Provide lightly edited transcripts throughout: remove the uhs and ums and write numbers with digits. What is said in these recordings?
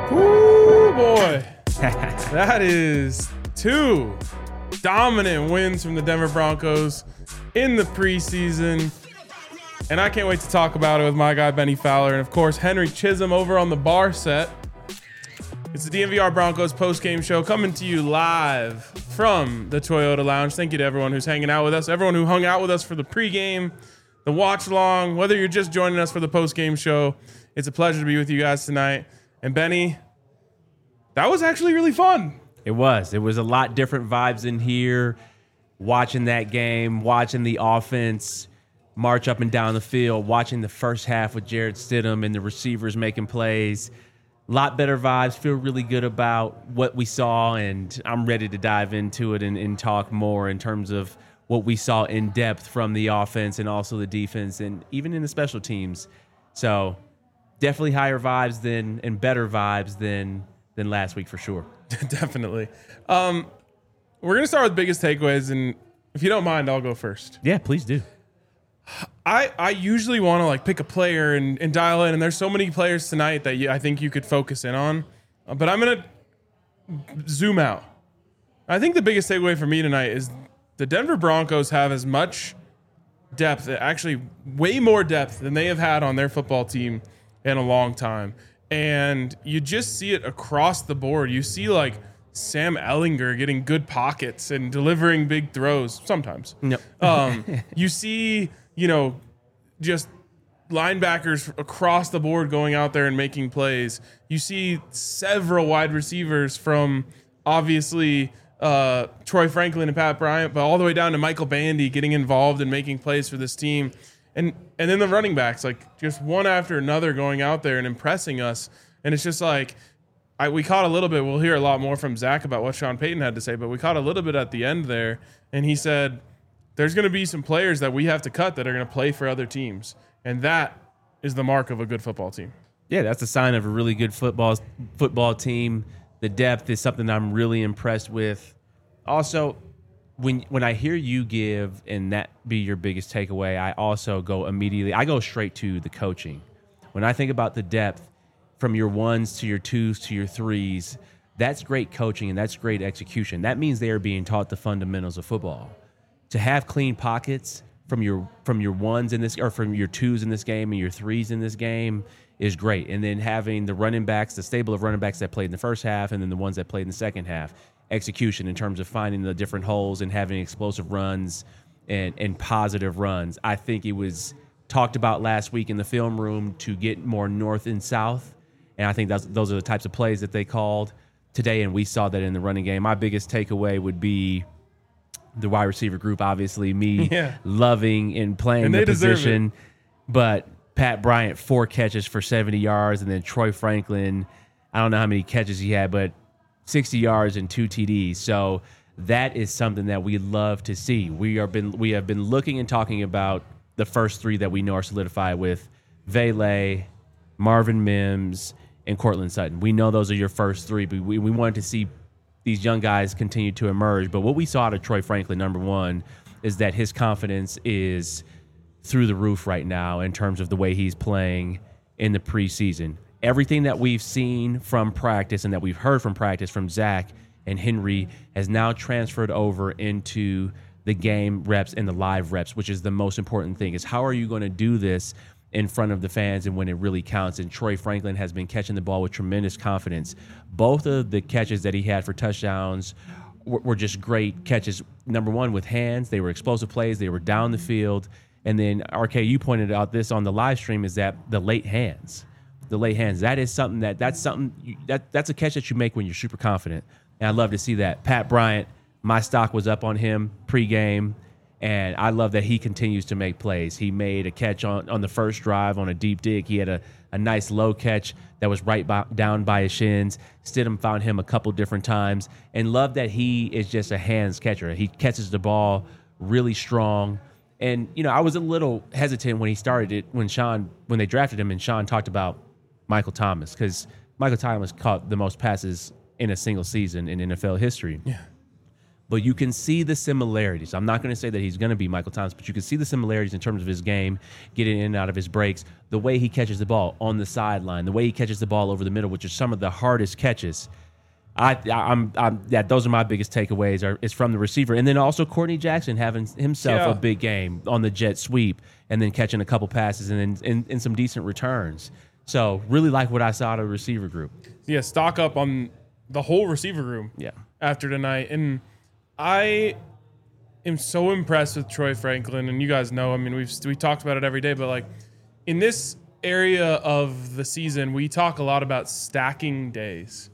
Ooh, boy. That is 2 dominant wins from the Denver Broncos in the preseason. And I can't wait to talk about it with my guy, Benny Fowler. And, of course, Henry Chisholm over on the bar set. It's the DNVR Broncos postgame show coming to you live from the Toyota Lounge. Thank you to everyone who's hanging out with us, everyone who hung out with us for the pregame, the watch along, whether you're just joining us for the postgame show. It's a pleasure to be with you guys tonight. And Benny, that was actually really fun. It was. It was a lot different vibes in here, watching that game, watching the offense march up and down the field, watching the first half with Jarrett Stidham and the receivers making plays. A lot better vibes. Feel really good about what we saw, and I'm ready to dive into it and talk more in terms of what we saw in depth from the offense and also the defense and even in the special teams. So definitely higher vibes and better vibes than last week for sure. Definitely. We're going to start with biggest takeaways, and if you don't mind, I'll go first. Yeah, please do. I usually want to pick a player and dial in, and there's so many players tonight that I think you could focus in on, but I'm going to zoom out. I think the biggest takeaway for me tonight is the Denver Broncos have as much depth, actually way more depth than they have had on their football team in a long time. And you just see it across the board. You see Sam Ehlinger getting good pockets and delivering big throws sometimes. Yep. You see, just linebackers across the board going out there and making plays. You see several wide receivers from obviously Troy Franklin and Pat Bryant, but all the way down to Michael Bandy getting involved and making plays for this team. And then the running backs, just one after another going out there and impressing us. And it's just we caught a little bit. We'll hear a lot more from Zach about what Sean Payton had to say, but we caught a little bit at the end there. And he said, there's going to be some players that we have to cut that are going to play for other teams. And that is the mark of a good football team. Yeah, that's a sign of a really good football team. The depth is something I'm really impressed with. Also, when I hear you give and that be your biggest takeaway, I also go straight to the coaching. When I think about the depth from your ones to your twos to your threes, that's great coaching and that's great execution. That means they are being taught the fundamentals of football. To have clean pockets from your ones in this, or from your twos in this game and your threes in this game, is great. And then having the running backs, the stable of running backs that played in the first half and then the ones that played in the second half, execution in terms of finding the different holes and having explosive runs and positive runs. I think it was talked about last week in the film room to get more north and south, and I think those are the types of plays that they called today, and we saw that in the running game. My biggest takeaway would be the wide receiver group, obviously, loving and playing the position. But Pat Bryant, 4 catches for 70 yards, and then Troy Franklin, I don't know how many catches he had, but 60 yards and 2 TDs. So that is something that we love to see. We have been looking and talking about the first 3 that we know are solidified with Vele, Marvin Mims, and Courtland Sutton. We know those are your first 3, but we wanted to see these young guys continue to emerge. But what we saw out of Troy Franklin, number one, is that his confidence is through the roof right now in terms of the way he's playing in the preseason. Everything that we've seen from practice and that we've heard from practice from Zach and Henry has now transferred over into the game reps and the live reps, which is the most important thing, is how are you going to do this in front of the fans and when it really counts. And Troy Franklin has been catching the ball with tremendous confidence. Both of the catches that he had for touchdowns were just great catches. Number one, with hands. They were explosive plays. They were down the field. And then, RK, you pointed out this on the live stream, is that the late hands. The late hands. That is something that's a catch that you make when you're super confident. And I love to see that. Pat Bryant, my stock was up on him pregame. And I love that he continues to make plays. He made a catch on the first drive on a deep dig. He had a nice low catch that was down by his shins. Stidham found him a couple different times. And love that he is just a hands catcher. He catches the ball really strong. And, I was a little hesitant when he started it, when they drafted him and Sean talked about Michael Thomas, because Michael Thomas caught the most passes in a single season in NFL history. Yeah. but you can see the similarities. I'm not going to say that he's going to be Michael Thomas, but you can see the similarities in terms of his game, getting in and out of his breaks, the way he catches the ball on the sideline, the way he catches the ball over the middle, which are some of the hardest catches. Those are my biggest takeaways. Is from the receiver, and then also Courtney Jackson having himself a big game on the jet sweep, and then catching a couple passes and then some decent returns. So really like what I saw out of the receiver group. Yeah, stock up on the whole receiver room. Yeah. After tonight, and I am so impressed with Troy Franklin. And you guys know, I mean, we talked about it every day, but like in this area of the season, we talk a lot about stacking days.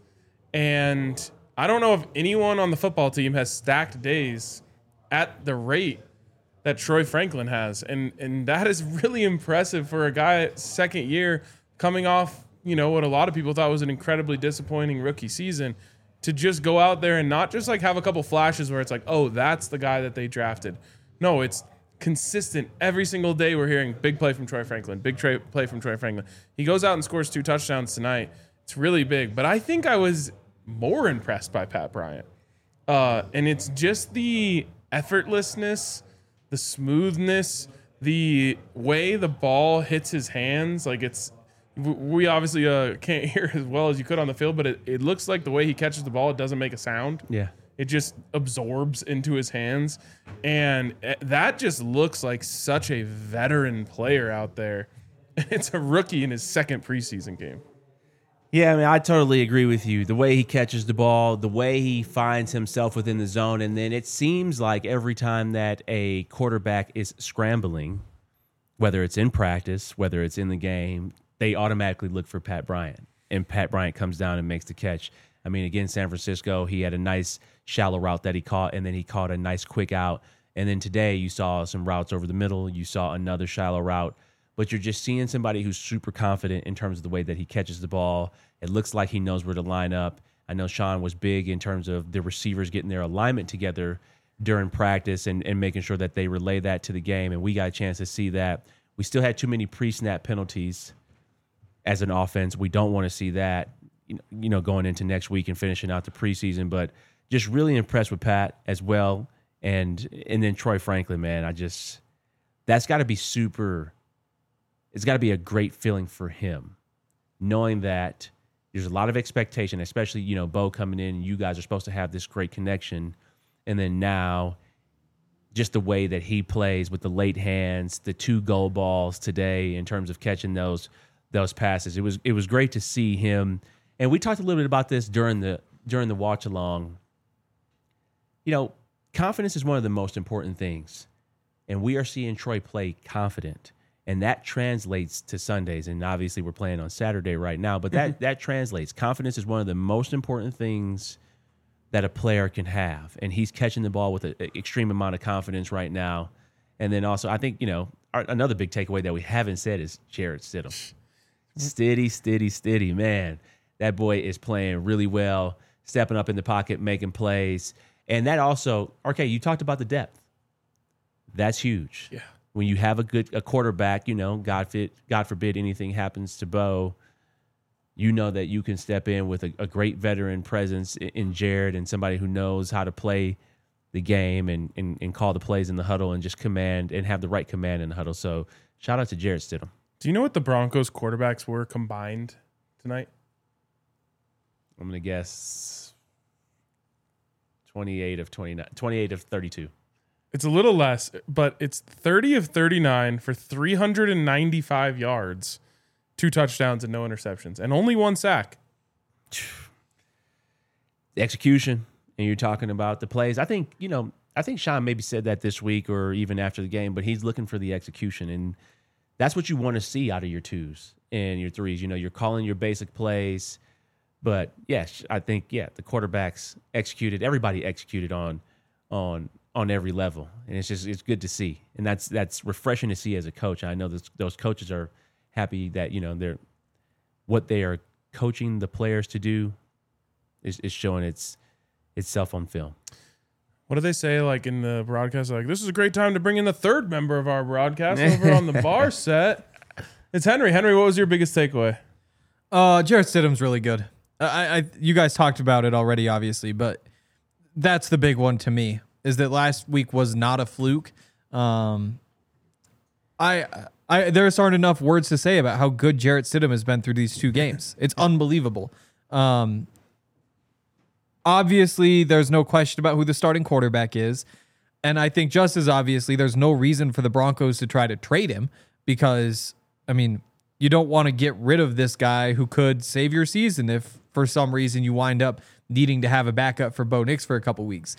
And I don't know if anyone on the football team has stacked days at the rate that Troy Franklin has. And that is really impressive for a guy second year coming off, what a lot of people thought was an incredibly disappointing rookie season, to just go out there and not just like have a couple flashes where it's like, oh, that's the guy that they drafted. No, it's consistent. Every single day we're hearing big play from Troy Franklin, play from Troy Franklin. He goes out and scores 2 touchdowns tonight. It's really big. But I think I was more impressed by Pat Bryant. And it's just the effortlessness, the smoothness, the way the ball hits his hands. Like we obviously can't hear as well as you could on the field, but it looks like the way he catches the ball, it doesn't make a sound. Yeah. It just absorbs into his hands. And that just looks like such a veteran player out there. It's a rookie in his second preseason game. Yeah, I mean, I totally agree with you. The way he catches the ball, the way he finds himself within the zone, and then it seems like every time that a quarterback is scrambling, whether it's in practice, whether it's in the game, they automatically look for Pat Bryant. And Pat Bryant comes down and makes the catch. I mean, again, San Francisco, he had a nice shallow route that he caught, and then he caught a nice quick out. And then today you saw some routes over the middle. You saw another shallow route. But you're just seeing somebody who's super confident in terms of the way that he catches the ball. It looks like he knows where to line up. I know Sean was big in terms of the receivers getting their alignment together during practice and making sure that they relay that to the game, and we got a chance to see that. We still had too many pre-snap penalties as an offense. We don't want to see that, going into next week and finishing out the preseason, but just really impressed with Pat as well. And then Troy Franklin, man, that's got to be it's got to be a great feeling for him, knowing that there's a lot of expectation, especially, Bo coming in, and you guys are supposed to have this great connection. And then now just the way that he plays with the late hands, the 2 goal balls today in terms of catching those passes. It was great to see him. And we talked a little bit about this during the watch along. Confidence is one of the most important things. And we are seeing Troy play confident. And that translates to Sundays. And obviously we're playing on Saturday right now, but that translates. Confidence is one of the most important things that a player can have. And he's catching the ball with an extreme amount of confidence right now. And then also, I think, another big takeaway that we haven't said is Jarrett Stidham. Steady, man. That boy is playing really well, stepping up in the pocket, making plays. And that also, RK, you talked about the depth. That's huge. Yeah. When you have a quarterback, God forbid anything happens to Bo, that you can step in with a great veteran presence in Jared and somebody who knows how to play the game and call the plays in the huddle and just command and have the right command in the huddle. So shout out to Jarrett Stidham. Do you know what the Broncos quarterbacks were combined tonight? I'm going to guess 28 of 32. It's a little less, but it's 30 of 39 for 395 yards, 2 touchdowns and no interceptions, and only 1 sack. The execution, and you're talking about the plays. I think Sean maybe said that this week or even after the game, but he's looking for the execution, and that's what you want to see out of your 2s and your 3s. You're calling your basic plays, but yes, I think the quarterbacks executed. Everybody executed on every level, and it's good to see, and that's refreshing to see as a coach. I know those coaches are happy that they're what they are coaching the players to do is showing itself on film. What do they say like in the broadcast? Like, this is a great time to bring in the 3rd member of our broadcast over on the bar set. It's Henry. Henry, what was your biggest takeaway? Jarrett Stidham's really good. You guys talked about it already, obviously, but that's the big one to me, is that last week was not a fluke. There aren't enough words to say about how good Jarrett Stidham has been through these 2 games. It's unbelievable. Obviously, there's no question about who the starting quarterback is. And I think just as obviously, there's no reason for the Broncos to try to trade him because, I mean, you don't want to get rid of this guy who could save your season if for some reason you wind up needing to have a backup for Bo Nix for a couple weeks.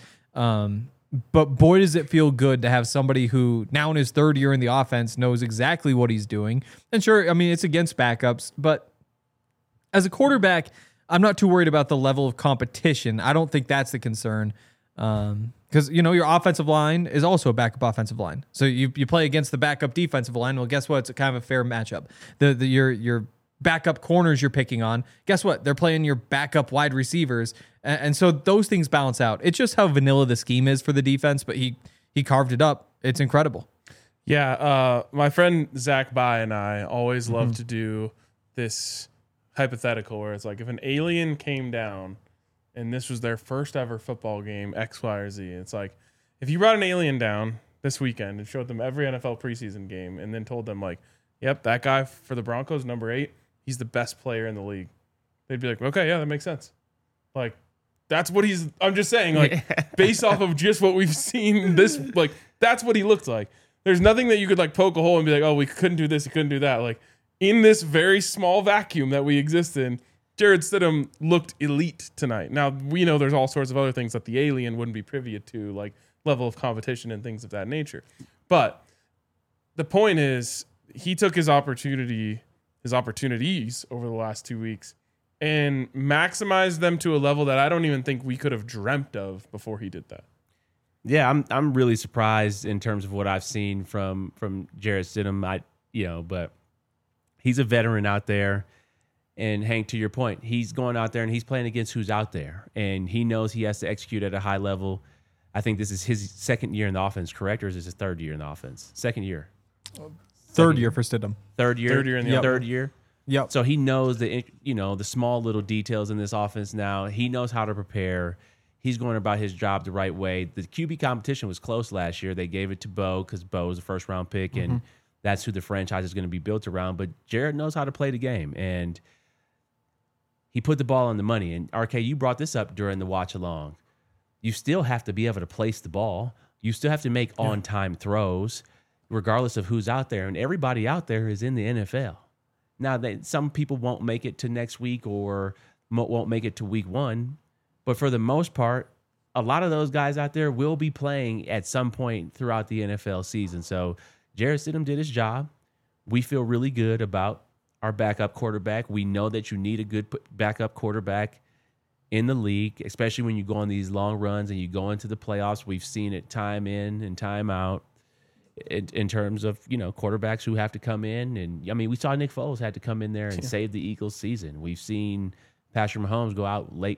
But boy, does it feel good to have somebody who now in his 3rd year in the offense knows exactly what he's doing. And sure, I mean, it's against backups, but as a quarterback, I'm not too worried about the level of competition. I don't think that's the concern. Because, your offensive line is also a backup offensive line. So you play against the backup defensive line. Well, guess what? It's kind of a fair matchup. Your backup corners you're picking on, guess what? They're playing your backup wide receivers. And so those things balance out. It's just how vanilla the scheme is for the defense, but he carved it up. It's incredible. Yeah. My friend Zach Bai and I always love to do this hypothetical where it's like if an alien came down and this was their first ever football game, X, Y, or Z. It's like if you brought an alien down this weekend and showed them every NFL preseason game and then told them like, yep, that guy for the Broncos, number 8, he's the best player in the league. They'd be like, okay, yeah, that makes sense. Like, that's what I'm just saying, like, based off of just what we've seen that's what he looked like. There's nothing that you could like poke a hole and be like, oh, we couldn't do this, we couldn't do that. Like, in this very small vacuum that we exist in, Jarrett Stidham looked elite tonight. Now, we know there's all sorts of other things that the alien wouldn't be privy to, like level of competition and things of that nature. But the point is, he took his opportunities over the last 2 weeks and maximized them to a level that I don't even think we could have dreamt of before he did that. Yeah, I'm really surprised in terms of what I've seen from Jarrett Stidham. But he's a veteran out there. And Hank, to your point, he's going out there and he's playing against who's out there. And he knows he has to execute at a high level. I think this is his 2nd year in the offense, correct? Or is this his 3rd year in the offense? 2nd year. 3rd year for Stidham. 3rd year? 3rd year in the third year? Yep. So he knows the small little details in this offense now. He knows how to prepare. He's going about his job the right way. The QB competition was close last year. They gave it to Bo because Bo was a first-round pick, and that's who the franchise is going to be built around. But Jarrett knows how to play the game, and he put the ball on the money. And, RK, you brought this up during the watch-along. You still have to be able to place the ball. You still have to make on-time throws, regardless of who's out there. And everybody out there is in the NFL. Now, some people won't make it to next week or won't make it to week 1. But for the most part, a lot of those guys out there will be playing at some point throughout the NFL season. So Jarrett Stidham did his job. We feel really good about our backup quarterback. We know that you need a good backup quarterback in the league, especially when you go on these long runs and you go into the playoffs. We've seen it time in and time out in terms of, quarterbacks who have to come in. And, I mean, we saw Nick Foles had to come in there and save the Eagles season. We've seen Patrick Mahomes go out late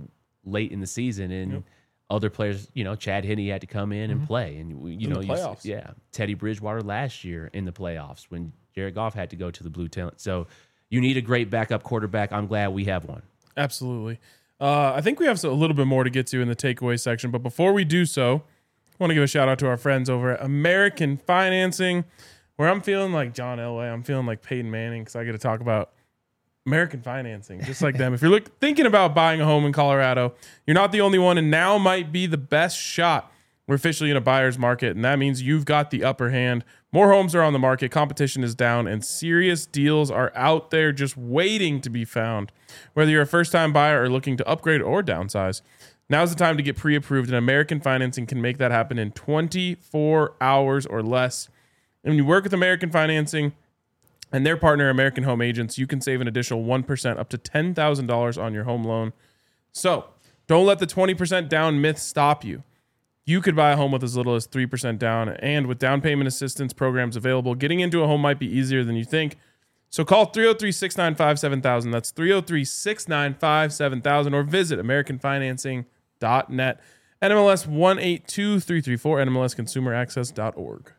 in the season, and other players, Chad Henne had to come in and play. And, playoffs. Teddy Bridgewater last year in the playoffs when Jared Goff had to go to the blue tent. So you need a great backup quarterback. I'm glad we have one. Absolutely. I think we have a little bit more to get to in the takeaway section, but before we do so, I want to give a shout out to our friends over at American Financing, where I'm feeling like John Elway. I'm feeling like Peyton Manning because I get to talk about American Financing, just like them. If you're thinking about buying a home in Colorado, you're not the only one, and now might be the best shot. We're officially in a buyer's market, and that means you've got the upper hand. More homes are on the market, competition is down, and serious deals are out there just waiting to be found. Whether you're a first-time buyer or looking to upgrade or downsize, now's the time to get pre-approved, and American Financing can make that happen in 24 hours or less. And when you work with American Financing and their partner, American Home Agents, you can save an additional 1% up to $10,000 on your home loan. So don't let the 20% down myth stop you. You could buy a home with as little as 3% down, and with down payment assistance programs available, getting into a home might be easier than you think. So call 303-695-7000. That's 303-695-7000, or visit AmericanFinancing.net. NMLS 182334, NMLSConsumerAccess.org.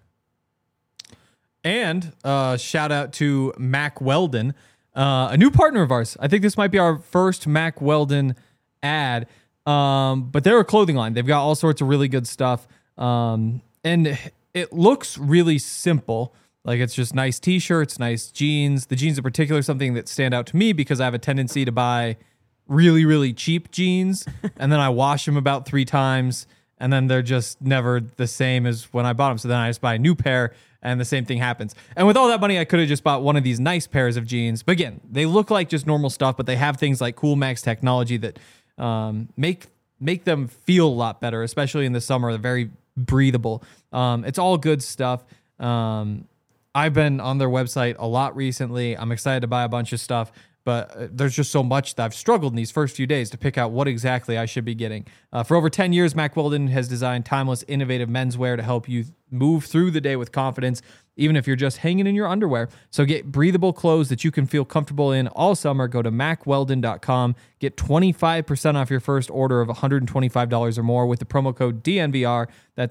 And shout out to Mack Weldon, a new partner of ours. I think this might be our first Mack Weldon ad. But they're a clothing line. They've got all sorts of really good stuff. And it looks really simple. Like it's just nice t-shirts, nice jeans. The jeans in particular, something that stand out to me because I have a tendency to buy really, really cheap jeans. And then I wash them about 3 times. And then they're just never the same as when I bought them. So then I just buy a new pair and the same thing happens. And with all that money, I could have just bought one of these nice pairs of jeans. But again, they look like just normal stuff, but they have things like Cool Max technology that make them feel a lot better, especially in the summer. They're very breathable. It's all good stuff. I've been on their website a lot recently. I'm excited to buy a bunch of stuff, but there's just so much that I've struggled in these first few days to pick out what exactly I should be getting. For over 10 years, Mack Weldon has designed timeless, innovative menswear to help you move through the day with confidence, even if you're just hanging in your underwear. So get breathable clothes that you can feel comfortable in all summer. Go to MackWeldon.com. Get 25% off your first order of $125 or more with the promo code DNVR. That's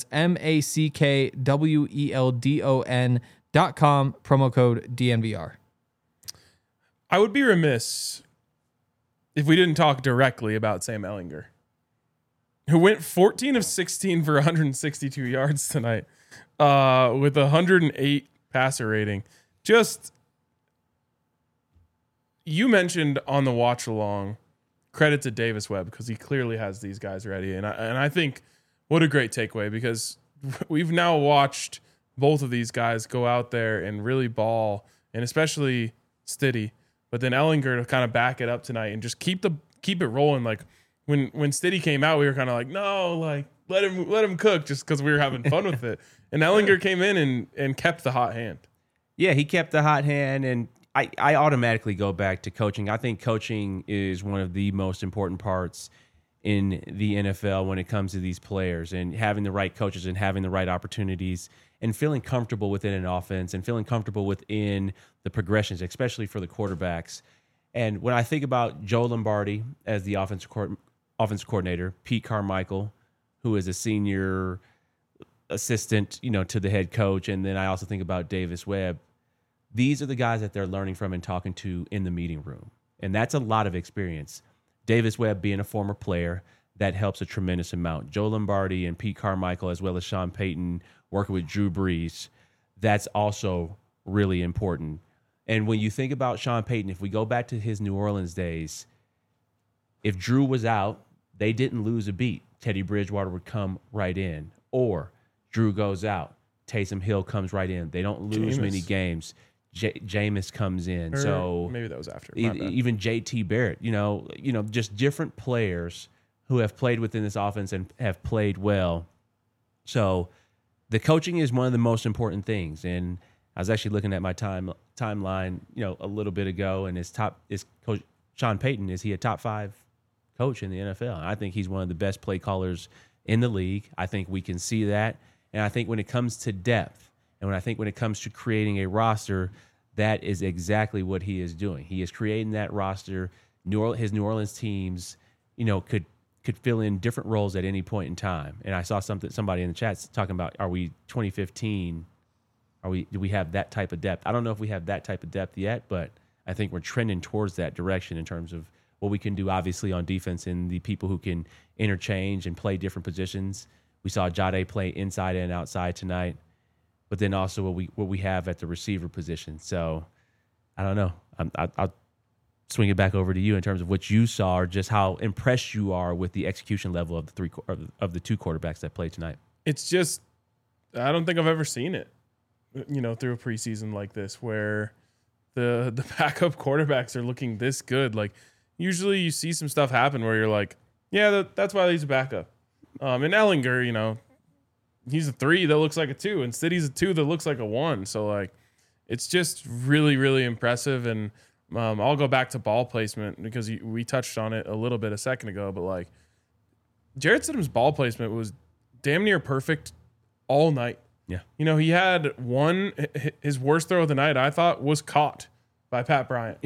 MackWeldon.com, promo code DNVR. I would be remiss if we didn't talk directly about Sam Ehlinger, who went 14 of 16 for 162 yards tonight with a 108 passer rating. Just, you mentioned on the watch along, credit to Davis Webb because he clearly has these guys ready. And I think what a great takeaway, because we've now watched both of these guys go out there and really ball, and especially Stiddy. But then Ehlinger to kind of back it up tonight and just keep it rolling. Like when Stiddy came out, we were kind of like, no, like let him cook, just because we were having fun with it. And Ehlinger came in and kept the hot hand. Yeah, he kept the hot hand, and I automatically go back to coaching. I think coaching is one of the most important parts in the NFL when it comes to these players, and having the right coaches and having the right opportunities and feeling comfortable within an offense and feeling comfortable within the progressions, especially for the quarterbacks. And when I think about Joe Lombardi as the offensive coordinator, Pete Carmichael, who is a senior assistant, to the head coach, and then I also think about Davis Webb, these are the guys that they're learning from and talking to in the meeting room. And that's a lot of experience. Davis Webb being a former player, that helps a tremendous amount. Joe Lombardi and Pete Carmichael, as well as Sean Payton, working with Drew Brees, that's also really important. And when you think about Sean Payton, if we go back to his New Orleans days, if Drew was out, they didn't lose a beat. Teddy Bridgewater would come right in. Or Drew goes out, Taysom Hill comes right in. They don't lose many games. Jameis comes in. So maybe that was after. Even JT Barrett, just different players who have played within this offense and have played well. So the coaching is one of the most important things. And I was actually looking at my timeline, a little bit ago, and is Coach Sean Payton, is he a top 5 coach in the NFL? And I think he's one of the best play callers in the league. I think we can see that. And I think when it comes to depth, and when it comes to creating a roster, that is exactly what he is doing. He is creating that roster. His New Orleans teams, could fill in different roles at any point in time. And I saw somebody in the chat talking about, are we 2015? Do we have that type of depth? I don't know if we have that type of depth yet, but I think we're trending towards that direction in terms of what we can do, obviously, on defense and the people who can interchange and play different positions. We saw Jade play inside and outside tonight, but then also what we have at the receiver position. So I don't know. I'll swing it back over to you in terms of what you saw, or just how impressed you are with the execution level of the 2 quarterbacks that played tonight. It's just, I don't think I've ever seen it, through a preseason like this, where the backup quarterbacks are looking this good. Like, usually you see some stuff happen where you're like, yeah, that's why he's a backup. And Ehlinger, he's a 3 that looks like a 2, and City's a 2 that looks like a 1. So, like, it's just really, really impressive. And I'll go back to ball placement because we touched on it a little bit a second ago, but like Jarrett Stidham's ball placement was damn near perfect all night. Yeah. He had his worst throw of the night, I thought, was caught by Pat Bryant.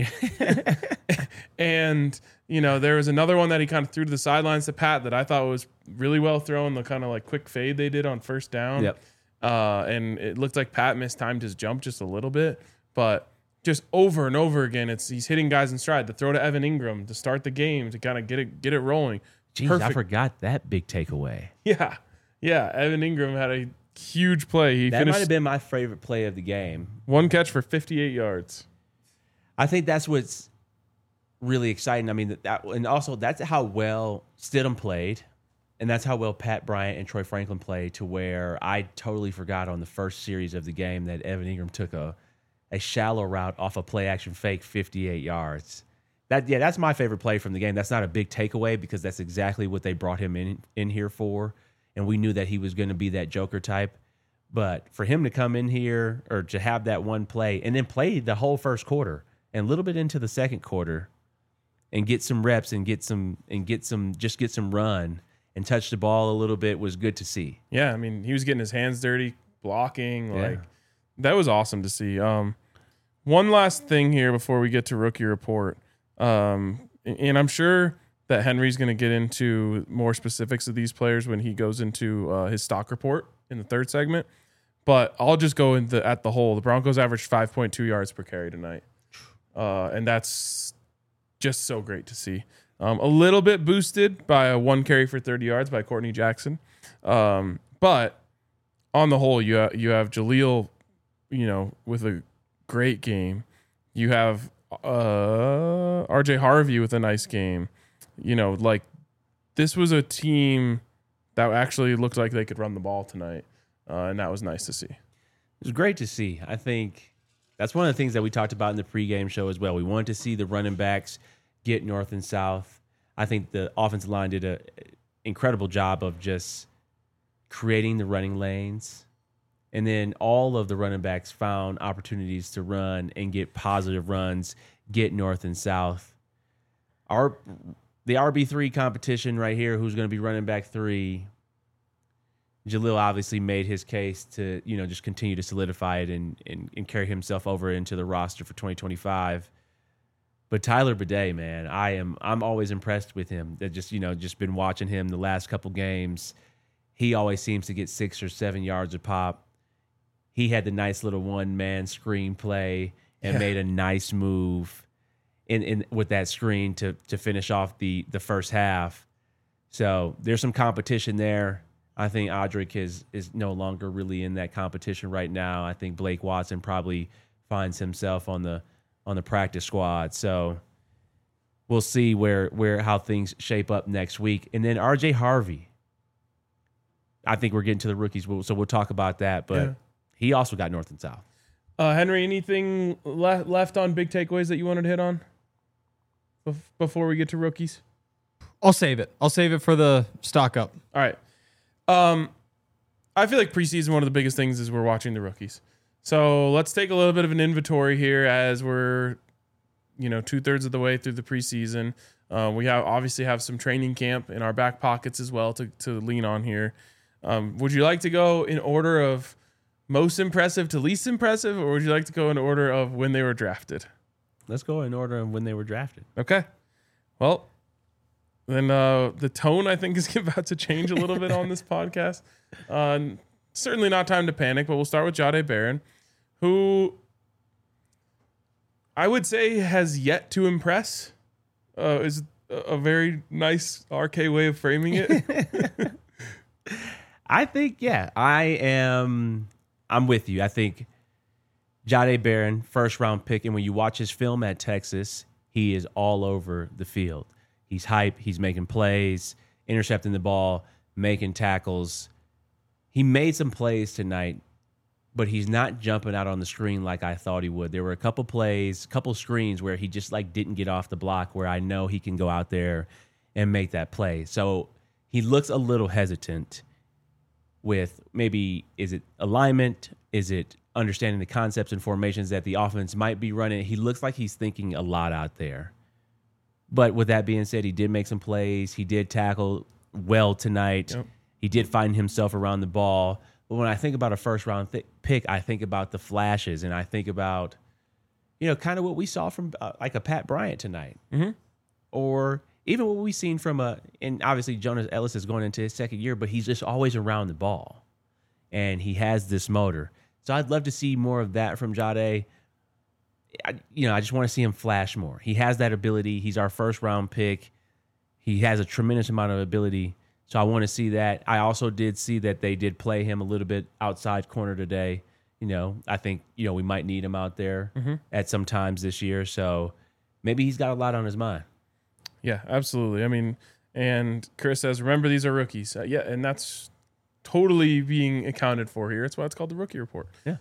And, there was another one that he kind of threw to the sidelines to Pat that I thought was really well thrown, the kind of like quick fade they did on first down. Yep. And it looked like Pat mistimed his jump just a little bit, but just over and over again, he's hitting guys in stride. The throw to Evan Ingram to start the game to kind of get it rolling. Jeez, I Perfect. forgot that big takeaway. Yeah. Yeah. Evan Ingram had a huge play. He That might finished have been my favorite play of the game. one catch for 58 yards. I think that's what's really exciting. I mean, and also that's how well Stidham played, and that's how well Pat Bryant and Troy Franklin played, to where I totally forgot on the first series of the game that Evan Ingram took a shallow route off a play action fake 58 yards. That's my favorite play from the game. That's not a big takeaway because that's exactly what they brought him in here for, and we knew that he was going to be that Joker type. But for him to come in here or to have that one play and then play the whole first quarter and a little bit into the second quarter and get some reps and get some run and touch the ball a little bit was good to see. Yeah. I mean, he was getting his hands dirty, blocking. Yeah. Like, that was awesome to see. One last thing here before we get to rookie report. And I'm sure that Henry's going to get into more specifics of these players when he goes into his stock report in the third segment. But I'll just go at the whole. The Broncos averaged 5.2 yards per carry tonight. And that's just so great to see. A little bit boosted by a 1 carry for 30 yards by Courtney Jackson. But on the whole, you have Jaleel, with a great game. You have RJ Harvey with a nice game. This was a team that actually looked like they could run the ball tonight. And that was nice to see. It was great to see. I think that's one of the things that we talked about in the pregame show as well. We wanted to see the running backs get north and south. I think the offensive line did an incredible job of just creating the running lanes. And then all of the running backs found opportunities to run and get positive runs, get north and south. The RB3 competition right here, who's going to be running back 3, Jaleel obviously made his case to, just continue to solidify it and carry himself over into the roster for 2025. But Tyler Bidet, man, I'm always impressed with him. That just been watching him the last couple games. He always seems to get 6 or 7 yards a pop. He had the nice little one-man screen play and made a nice move in with that screen to finish off the first half. So there's some competition there. I think Audric is no longer really in that competition right now. I think Blake Watson probably finds himself on the practice squad. So we'll see how things shape up next week. And then RJ Harvey. I think we're getting to the rookies, so we'll talk about that. But he also got north and south. Henry, anything left on big takeaways that you wanted to hit on before we get to rookies? I'll save it. I'll save it for the stock up. All right. I feel like preseason, one of the biggest things is we're watching the rookies. So let's take a little bit of an inventory here as we're, 2/3 of the way through the preseason. We obviously have some training camp in our back pockets as well to lean on here. Would you like to go in order of most impressive to least impressive, or would you like to go in order of when they were drafted? Let's go in order of when they were drafted. Okay. Well, then the tone, I think, is about to change a little bit on this podcast. Certainly not time to panic, but we'll start with Jahdae Barron, who I would say has yet to impress. Is a very nice RK way of framing it. I think, I'm with you. I think Jahdae Barron, first-round pick, and when you watch his film at Texas, he is all over the field. He's hype. He's making plays, intercepting the ball, making tackles. He made some plays tonight, but he's not jumping out on the screen like I thought he would. There were a couple plays, couple screens where he just didn't get off the block, where I know he can go out there and make that play. So he looks a little hesitant with maybe, is it alignment? Is it understanding the concepts and formations that the offense might be running? He looks like he's thinking a lot out there. But with that being said, he did make some plays. He did tackle well tonight. Yep. He did find himself around the ball. But when I think about a first-round pick, I think about the flashes, and I think about, kind of what we saw from a Pat Bryant tonight. Mm-hmm. Or even what we've seen from and obviously Jonas Ellis is going into his second year, but he's just always around the ball. And he has this motor. So I'd love to see more of that from Jahdae. I just want to see him flash more. He has that ability. He's our first-round pick. he has a tremendous amount of ability. So I want to see that. I also did see that they did play him a little bit outside corner today. I think, we might need him out there at some times this year. So maybe he's got a lot on his mind. Yeah, absolutely. I mean, and Chris says, remember, these are rookies. Yeah, and that's totally being accounted for here. That's why it's called the rookie report. Yeah.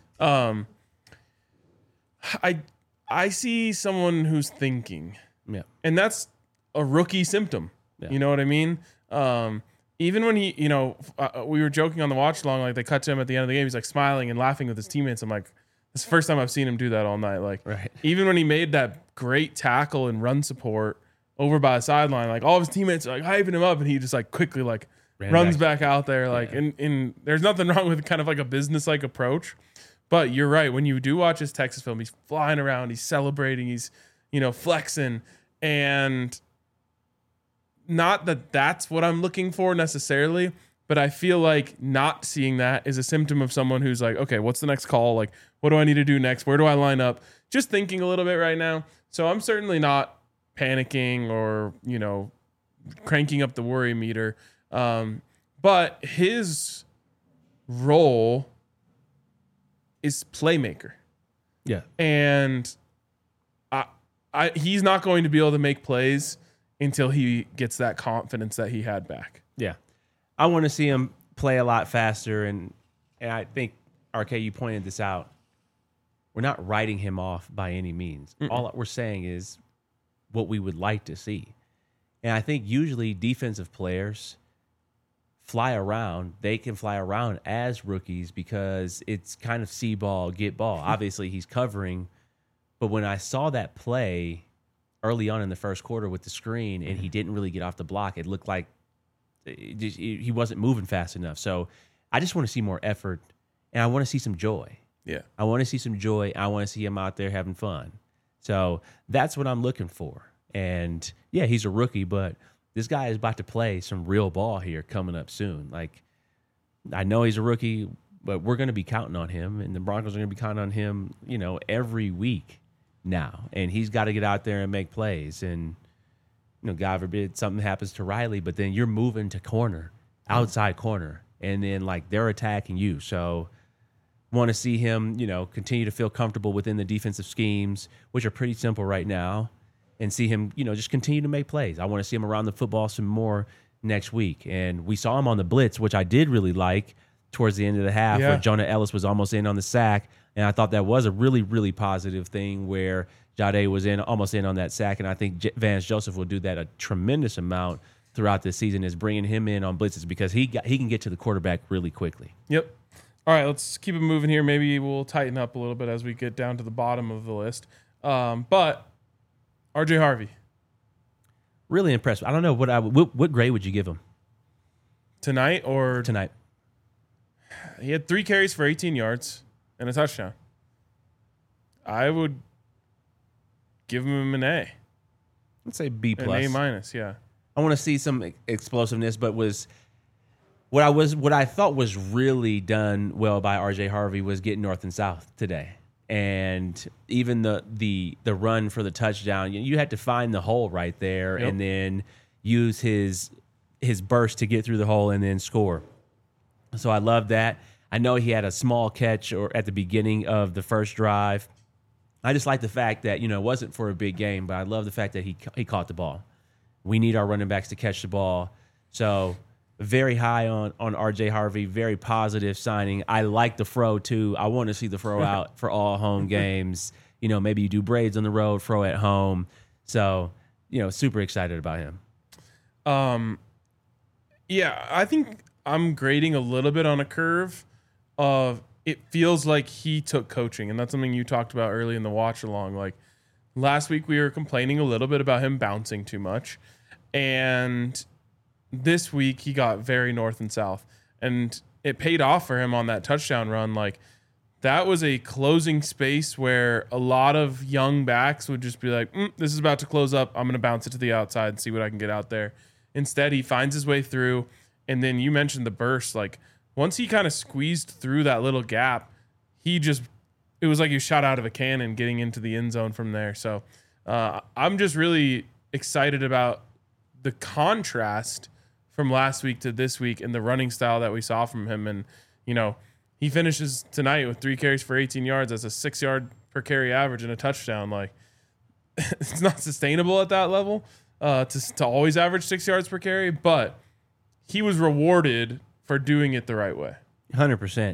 I see someone who's thinking. Yeah. And that's a rookie symptom. Yeah. You know what I mean? Even when he, we were joking on the watch along, like they cut to him at the end of the game, he's like smiling and laughing with his teammates. I'm like, it's the first time I've seen him do that all night. Like, right. Even when he made that great tackle and run support over by the sideline, like all of his teammates are like hyping him up, and he just like quickly like runs back out there. Like, and there's nothing wrong with kind of like a business like approach. But you're right. When you do watch his Texas film, he's flying around, he's celebrating, he's, flexing, and not that that's what I'm looking for necessarily, but I feel like not seeing that is a symptom of someone who's like, okay, what's the next call? Like, what do I need to do next? Where do I line up? Just thinking a little bit right now. So I'm certainly not panicking or, cranking up the worry meter. But his role is playmaker. Yeah. And he's not going to be able to make plays until he gets that confidence that he had back. Yeah. I want to see him play a lot faster. And I think, RK, you pointed this out. We're not writing him off by any means. All we're saying is what we would like to see. And I think usually defensive players fly around. They can fly around as rookies because it's kind of see ball, get ball. Obviously, he's covering. But when I saw that play early on in the first quarter with the screen and he didn't really get off the block, it looked like he wasn't moving fast enough. So I just want to see more effort, and I want to see some joy. Yeah. I want to see some joy. I want to see him out there having fun. So that's what I'm looking for. And, yeah, he's a rookie, but this guy is about to play some real ball here coming up soon. Like, I know he's a rookie, but we're going to be counting on him, and the Broncos are going to be counting on him, every week now. And he's got to get out there and make plays. And, God forbid something happens to Riley, but then you're moving to corner, outside corner, and then, they're attacking you. So want to see him, continue to feel comfortable within the defensive schemes, which are pretty simple right now, and see him, just continue to make plays. I want to see him around the football some more next week. And we saw him on the blitz, which I did really like towards the end of the half, where Jonah Ellis was almost in on the sack. And I thought that was a really, really positive thing where Jade was almost in on that sack. And I think Vance Joseph will do that a tremendous amount throughout this season, is bringing him in on blitzes because he can get to the quarterback really quickly. Yep. All right, let's keep it moving here. Maybe we'll tighten up a little bit as we get down to the bottom of the list. But RJ Harvey. Really impressed. I don't know what grade would you give him Tonight. He had 3 carries for 18 yards and a touchdown. I would give him an A. Let's say B+. An A minus, yeah. I want to see some explosiveness, but what I thought was really done well by RJ Harvey was getting north and south today. And even the run for the touchdown, you had to find the hole right there and then use his burst to get through the hole and then score. So I love that. I know he had a small catch at the beginning of the first drive. I just like the fact that, it wasn't for a big game, but I love the fact that he caught the ball. We need our running backs to catch the ball. So very high on RJ Harvey, very positive signing. I like the fro too. I want to see the fro out for all home games. Maybe you do braids on the road, fro at home. So, super excited about him. Yeah, I think I'm grading a little bit on a curve of it feels like he took coaching, and that's something you talked about early in the watch along. Like last week we were complaining a little bit about him bouncing too much, and this week he got very north and south, and it paid off for him on that touchdown run. Like that was a closing space where a lot of young backs would just be like, this is about to close up. I'm going to bounce it to the outside and see what I can get out there. Instead, he finds his way through. And then you mentioned the burst. Like once he kind of squeezed through that little gap, it was like he shot out of a cannon getting into the end zone from there. So I'm just really excited about the contrast from last week to this week and the running style that we saw from him. And, he finishes tonight with 3 carries for 18 yards. That's a 6-yard per carry average and a touchdown. Like, it's not sustainable at that level to always average 6 yards per carry, but he was rewarded for doing it the right way. 100%.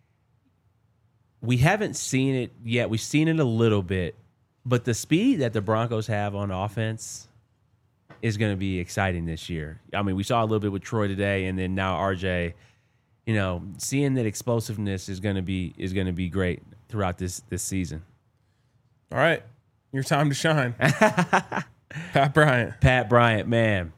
We haven't seen it yet. We've seen it a little bit, but the speed that the Broncos have on offense is going to be exciting this year. I mean, we saw a little bit with Troy today, and then now RJ. Seeing that explosiveness is going to be great throughout this season. All right, your time to shine. Pat Bryant, man.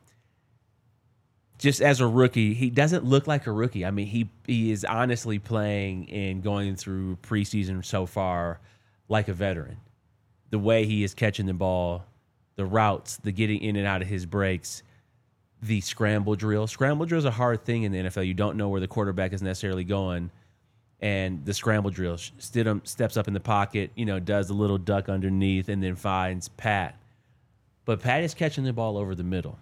Just as a rookie, he doesn't look like a rookie. I mean, he is honestly playing and going through preseason so far like a veteran. The way he is catching the ball, the routes, the getting in and out of his breaks, the scramble drill. Scramble drill is a hard thing in the NFL. You don't know where the quarterback is necessarily going. And the scramble drill, Stidham steps up in the pocket, does a little duck underneath and then finds Pat. But Pat is catching the ball over the middle.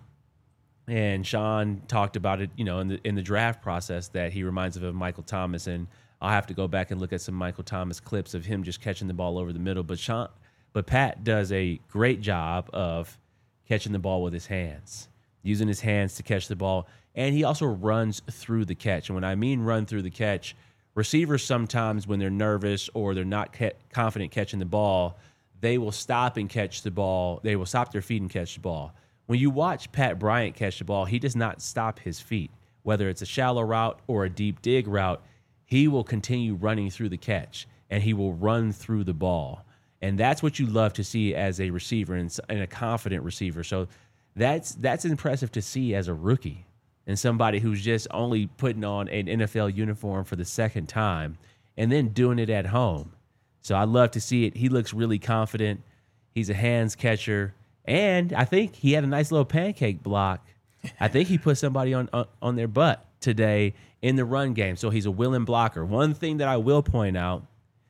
And Sean talked about it, in the draft process that he reminds of Michael Thomas. And I'll have to go back and look at some Michael Thomas clips of him just catching the ball over the middle. But Pat does a great job of catching the ball with his hands, using his hands to catch the ball. And he also runs through the catch. And when I mean run through the catch, receivers sometimes when they're nervous or they're not confident catching the ball, they will stop and catch the ball. They will stop their feet and catch the ball. When you watch Pat Bryant catch the ball, he does not stop his feet. Whether it's a shallow route or a deep dig route, he will continue running through the catch, and he will run through the ball. And that's what you love to see as a receiver and a confident receiver. So that's impressive to see as a rookie and somebody who's just only putting on an NFL uniform for the second time and then doing it at home. So I love to see it. He looks really confident. He's a hands catcher. And I think he had a nice little pancake block. I think he put somebody on their butt today in the run game. So he's a willing blocker. One thing that I will point out,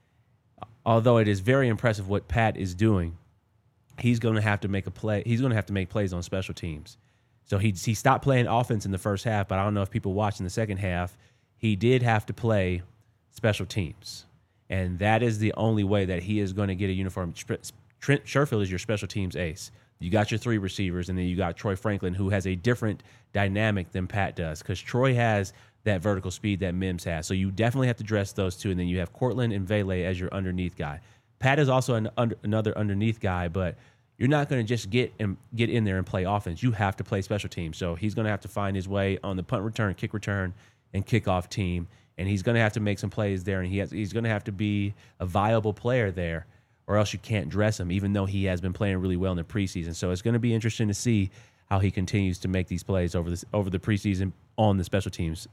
although it is very impressive what Pat is doing, he's going to have to make a play. He's going to have to make plays on special teams. So he stopped playing offense in the first half, but I don't know if people watched in the second half. He did have to play special teams. And that is the only way that he is going to get a uniform. Trent Sherfield is your special teams ace. You got your 3 receivers, and then you got Troy Franklin, who has a different dynamic than Pat does because Troy has that vertical speed that Mims has. So you definitely have to dress those 2, and then you have Cortland and Vele as your underneath guy. Pat is also another underneath guy, but you're not going to just get in there and play offense. You have to play special teams. So he's going to have to find his way on the punt return, kick return, and kickoff team, and he's going to have to make some plays there, and he's going to have to be a viable player there, or else you can't dress him, even though he has been playing really well in the preseason. So it's going to be interesting to see how he continues to make these plays over the preseason on the special teams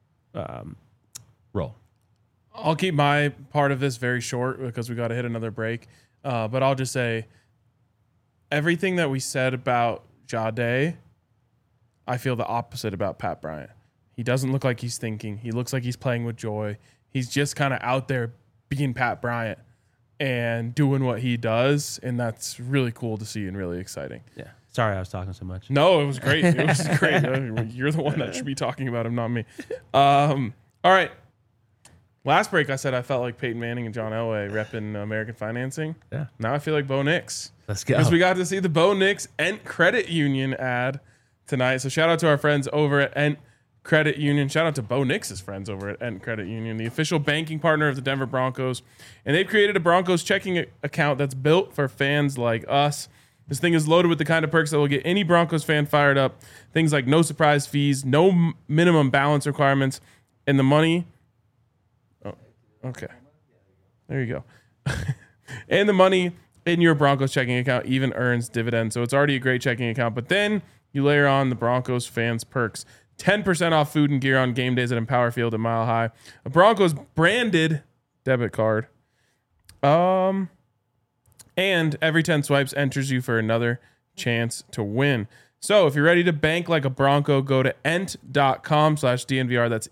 role. I'll keep my part of this very short because we got to hit another break. But I'll just say everything that we said about Jade, I feel the opposite about Pat Bryant. He doesn't look like he's thinking. He looks like he's playing with joy. He's just kind of out there being Pat Bryant and doing what he does, and that's really cool to see and really exciting. Yeah. Sorry I was talking so much. No, it was great. It was great. You're the one that should be talking about him, not me. All right. Last break, I said I felt like Peyton Manning and John Elway repping American Financing. Yeah. Now I feel like Bo Nix. Let's go. Because we got to see the Bo Nix Ent Credit Union ad tonight. So shout out to our friends over at Ent Credit Union. Shout out to Bo Nix's friends over at Ent Credit Union, the official banking partner of the Denver Broncos. And they've created a Broncos checking account that's built for fans like us. This thing is loaded with the kind of perks that will get any Broncos fan fired up. Things like no surprise fees, no minimum balance requirements, and the money. Oh, okay. There you go. And the money in your Broncos checking account even earns dividends. So it's already a great checking account. But then you layer on the Broncos fans perks. 10% off food and gear on game days at Empower Field at Mile High. A Broncos branded debit card. And every 10 swipes enters you for another chance to win. So if you're ready to bank like a Bronco, go to ent.com/DNVR. That's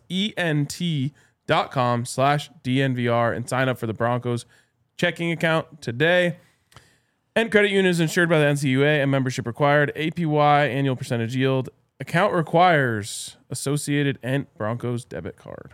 ENT.com/DNVR and sign up for the Broncos checking account today. And credit union is insured by the NCUA and membership required. APY, annual percentage yield. Account requires Associated and Broncos debit card.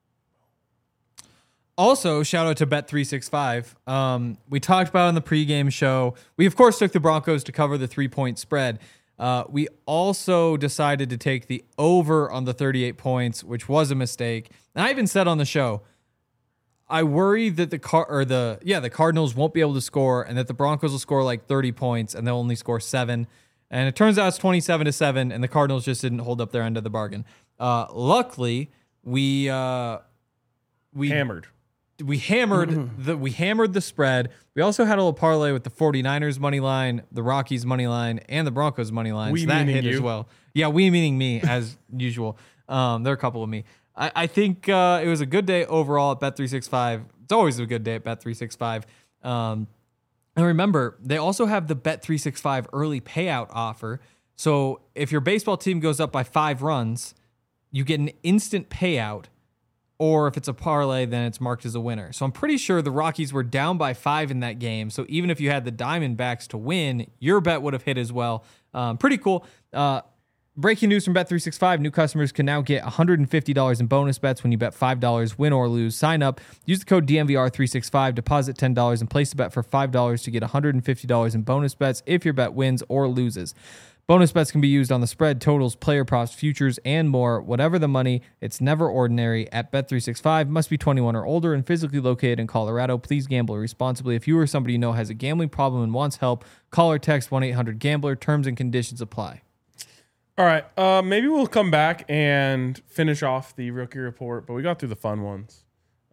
Also, shout out to Bet365. We talked about on the pregame show. We, of course, took the Broncos to cover the 3-point spread. We also decided to take the over on the 38 points, which was a mistake. And I even said on the show, I worry that the Cardinals won't be able to score, and that the Broncos will score like 30 points, and they'll only score 7. And it turns out it's 27-7, and the Cardinals just didn't hold up their end of the bargain. Luckily, we Hammered. We hammered the spread. We also had a little parlay with the 49ers money line, the Rockies money line, and the Broncos money line. We so that meaning hit you. as well. Yeah, we meaning me as usual. There are a couple of me. I think it was a good day overall at Bet365. It's always a good day at Bet365. And remember, they also have the Bet365 early payout offer. So if your baseball team goes up by 5 runs, you get an instant payout. Or if it's a parlay, then it's marked as a winner. So I'm pretty sure the Rockies were down by 5 in that game. So even if you had the Diamondbacks to win, your bet would have hit as well. Pretty cool. Breaking news from Bet365. New customers can now get $150 in bonus bets when you bet $5, win or lose. Sign up, use the code DNVR365, deposit $10, and place a bet for $5 to get $150 in bonus bets if your bet wins or loses. Bonus bets can be used on the spread, totals, player props, futures, and more. Whatever the money, it's never ordinary at Bet365. Must be 21 or older and physically located in Colorado. Please gamble responsibly. If you or somebody you know has a gambling problem and wants help, call or text 1-800-GAMBLER. Terms and conditions apply. All right. Maybe we'll come back and finish off the rookie report, but we got through the fun ones.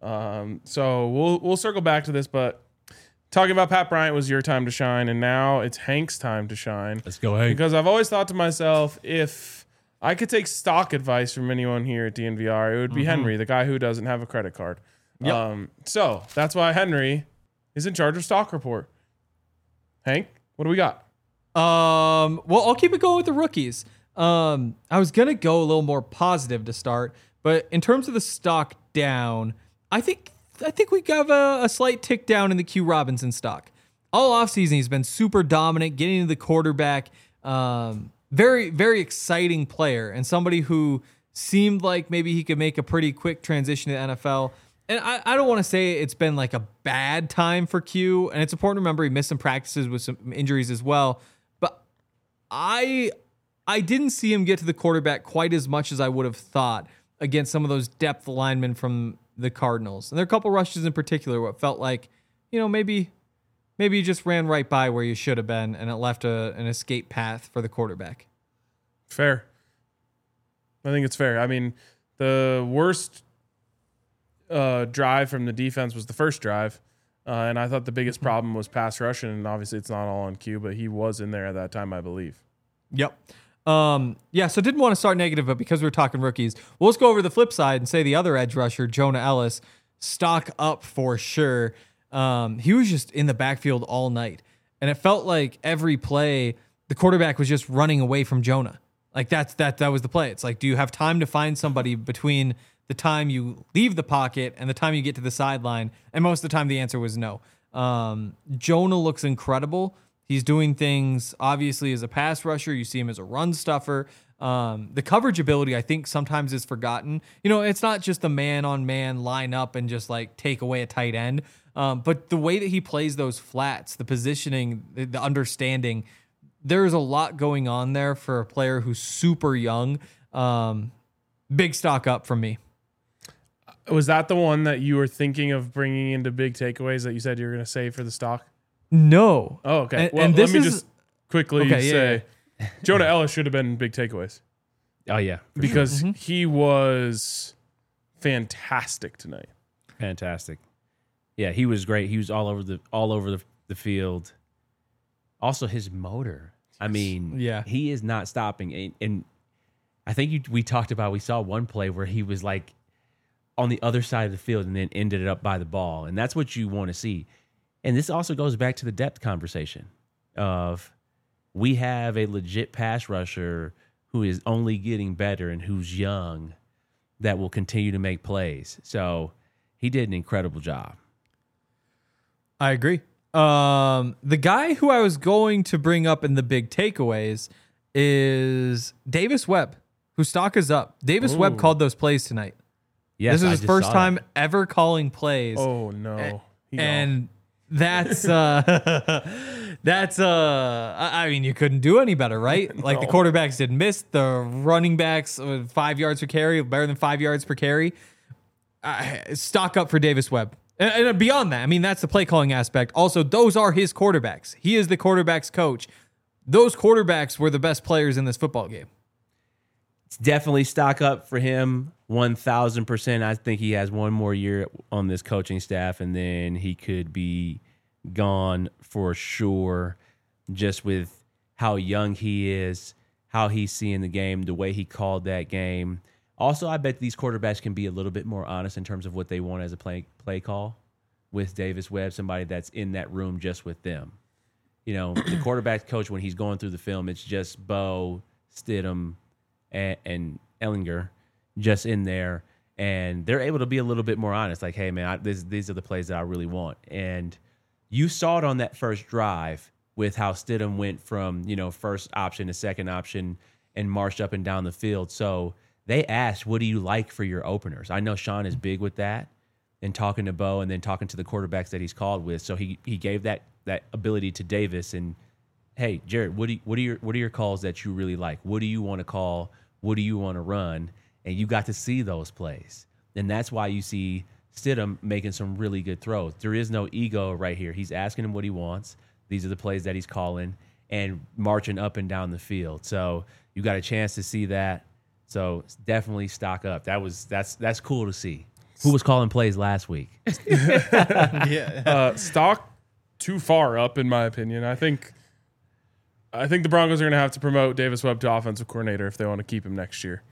So we'll circle back to this, but talking about Pat Bryant was your time to shine, and now it's Hank's time to shine. Let's go, Hank. Because I've always thought to myself, if I could take stock advice from anyone here at DNVR, it would be Henry, the guy who doesn't have a credit card. Yep. So that's why Henry is in charge of stock report. Hank, what do we got? Well, I'll keep it going with the rookies. I was going to go a little more positive to start, but in terms of the stock down, I think we got a slight tick down in the Q Robinson stock. All offseason, he's been super dominant, getting to the quarterback. Very, very exciting player, and somebody who seemed like maybe he could make a pretty quick transition to the NFL. And I don't want to say it's been like a bad time for Q, and it's important to remember he missed some practices with some injuries as well. But I didn't see him get to the quarterback quite as much as I would have thought against some of those depth linemen from the Cardinals. And there are a couple rushes in particular what felt like, maybe you just ran right by where you should have been, and it left an escape path for the quarterback. Fair. I think it's fair. I mean, the worst drive from the defense was the first drive. And I thought the biggest problem was pass rush, and obviously it's not all on Q, but he was in there at that time, I believe. Yep. So didn't want to start negative, but because we're talking rookies, well, let's go over the flip side and say the other edge rusher, Jonah Ellis, stock up for sure. He was just in the backfield all night, and it felt like every play the quarterback was just running away from Jonah. Like that was the play. It's like, do you have time to find somebody between the time you leave the pocket and the time you get to the sideline? And most of the time the answer was no. Jonah looks incredible. He's doing things, obviously, as a pass rusher. You see him as a run stuffer. The coverage ability, I think, sometimes is forgotten. It's not just the man-on-man line up and just, like, take away a tight end. But the way that he plays those flats, the positioning, the understanding, there's a lot going on there for a player who's super young. Big stock up from me. Was that the one that you were thinking of bringing into big takeaways that you said you were going to save for the stock? No. Oh, okay. And Let me just quickly say, yeah. Jonah Ellis should have been big takeaways. Oh, yeah. Because he was fantastic tonight. Fantastic. Yeah, he was great. He was all over the field. Also, his motor. I mean, Yeah. he is not stopping. And I think we talked about, we saw one play where he was like on the other side of the field and then ended up by the ball. And that's what you want to see. And this also goes back to the depth conversation of we have a legit pass rusher who is only getting better and who's young that will continue to make plays. So he did an incredible job. I agree. The guy who I was going to bring up in the big takeaways is Davis Webb, whose stock is up. Davis Webb called those plays tonight. Yes, This is I his just first saw time that. ever calling plays. Oh no. He gone. And that's I mean, you couldn't do any better, right? Like the quarterbacks didn't miss, the running backs 5 yards per carry, better than 5 yards per carry. Stock up for Davis Webb. And beyond that, I mean, that's the play calling aspect. Also, those are his quarterbacks. He is the quarterback's coach. Those quarterbacks were the best players in this football game. It's definitely stock up for him, 1,000%. I think he has one more year on this coaching staff, and then he could be gone for sure. Just with how young he is, how he's seeing the game, the way he called that game. Also, I bet these quarterbacks can be a little bit more honest in terms of what they want as a play call with Davis Webb, somebody that's in that room just with them. You know, the quarterback coach, when he's going through the film, it's just Bo, Stidham, and Ellinger just in there. And they're able to be a little bit more honest. Like, hey, man, these are the plays that I really want. And you saw it on that first drive with how Stidham went from, first option to second option and marched up and down the field. So they asked, what do you like for your openers? I know Sean is big with that and talking to Bo and then talking to the quarterbacks that he's called with. So he gave that ability to Davis. And hey, Jared, what are your calls that you really like? What do you want to call? What do you want to run? And you got to see those plays. And that's why you see Stidham making some really good throws. There is no ego right here. He's asking him what he wants. These are the plays that he's calling and marching up and down the field. So you got a chance to see that. So definitely stock up. That's cool to see. Who was calling plays last week? Stock too far up, in my opinion. I think the Broncos are going to have to promote Davis Webb to offensive coordinator if they want to keep him next year,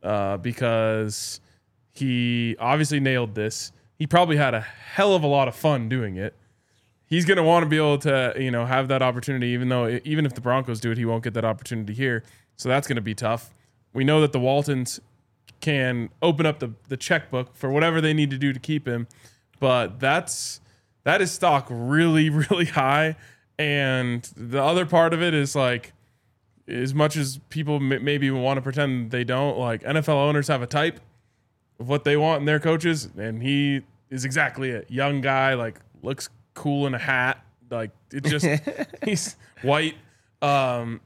because he obviously nailed this. He probably had a hell of a lot of fun doing it. He's going to want to be able to, have that opportunity, even if the Broncos do it, he won't get that opportunity here. So that's going to be tough. We know that the Waltons can open up the checkbook for whatever they need to do to keep him, but that is stock really, really high. And the other part of it is, like, as much as people maybe want to pretend they don't, like, NFL owners have a type of what they want in their coaches, and he is exactly it. Young guy, like, looks cool in a hat, like, it just he's white. I'm